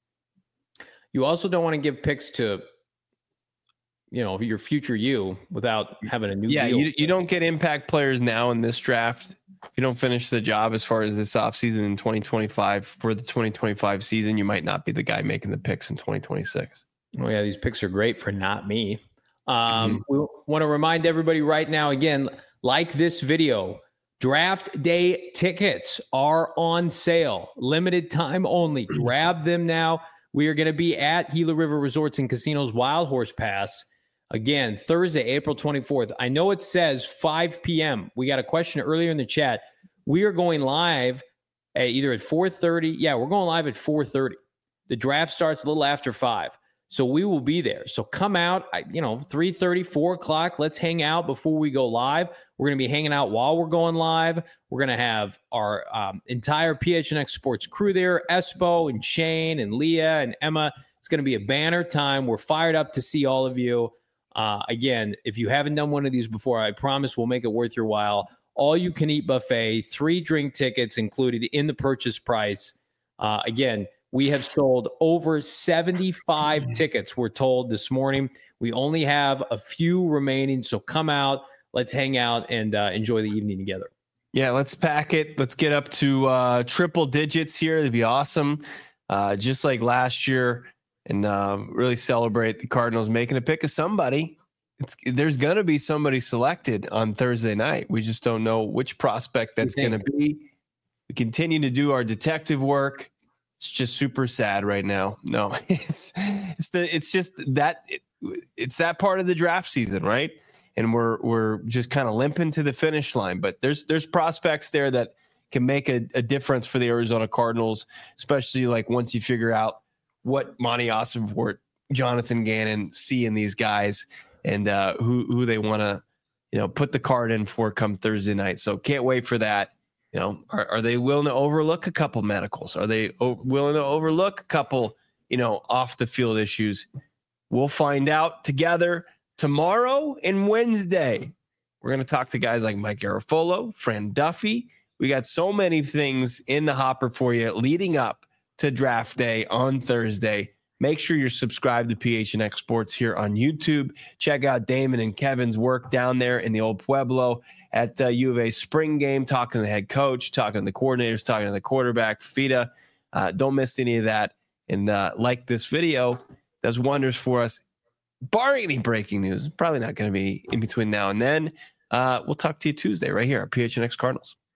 You also don't want to give picks to, you know, your future you without having a new Yeah, deal. you, you don't get impact players now in this draft. If you don't finish the job as far as this offseason in twenty twenty-five, for the twenty twenty-five season, you might not be the guy making the picks in twenty twenty-six. Oh, yeah, these picks are great for not me. Um, Mhm. We want to remind everybody right now, again, like this video, draft day tickets are on sale, limited time only. Grab them now. We are going to be at Gila River Resorts and Casinos Wild Horse Pass again, Thursday, April twenty-fourth. I know it says five p.m. We got a question earlier in the chat. We are going live at either at four thirty. Yeah, we're going live at four thirty. The draft starts a little after five. So we will be there. So come out, you know, three thirty, four o'clock. Let's hang out before we go live. We're going to be hanging out while we're going live. We're going to have our um, entire P H N X Sports crew there, Espo and Shane and Leah and Emma. It's going to be a banner time. We're fired up to see all of you. Uh, again, if you haven't done one of these before, I promise we'll make it worth your while. All you can eat buffet, three drink tickets included in the purchase price. Uh, again, we have sold over seventy-five tickets, we're told this morning. We only have a few remaining, so come out. Let's hang out and uh, enjoy the evening together. Yeah, let's pack it. Let's get up to uh, triple digits here. It'd be awesome, uh, just like last year, and uh, really celebrate the Cardinals making a pick of somebody. It's, there's going to be somebody selected on Thursday night. We just don't know which prospect that's going to be. We continue to do our detective work. It's just super sad right now. No, it's it's the it's just that it, it's that part of the draft season, right? And we're we're just kind of limping to the finish line. But there's there's prospects there that can make a, a difference for the Arizona Cardinals, especially like once you figure out what Monty Ossenfort, Jonathan Gannon see in these guys, and uh, who who they want to you know put the card in for come Thursday night. So can't wait for that. You know, are, are they willing to overlook a couple medicals? Are they o- willing to overlook a couple, you know, off the field issues? We'll find out together tomorrow and Wednesday. We're going to talk to guys like Mike Garafolo, Fran Duffy. We got so many things in the hopper for you leading up to draft day on Thursday. Make sure you're subscribed to P H N X Sports here on YouTube. Check out Damon and Kevin's work down there in the old Pueblo at uh, U of A spring game, talking to the head coach, talking to the coordinators, talking to the quarterback, Fida. Uh, don't miss any of that. And uh, like this video, does wonders for us. Barring any breaking news, probably not going to be in between now and then. Uh, we'll talk to you Tuesday right here at P H N X Cardinals.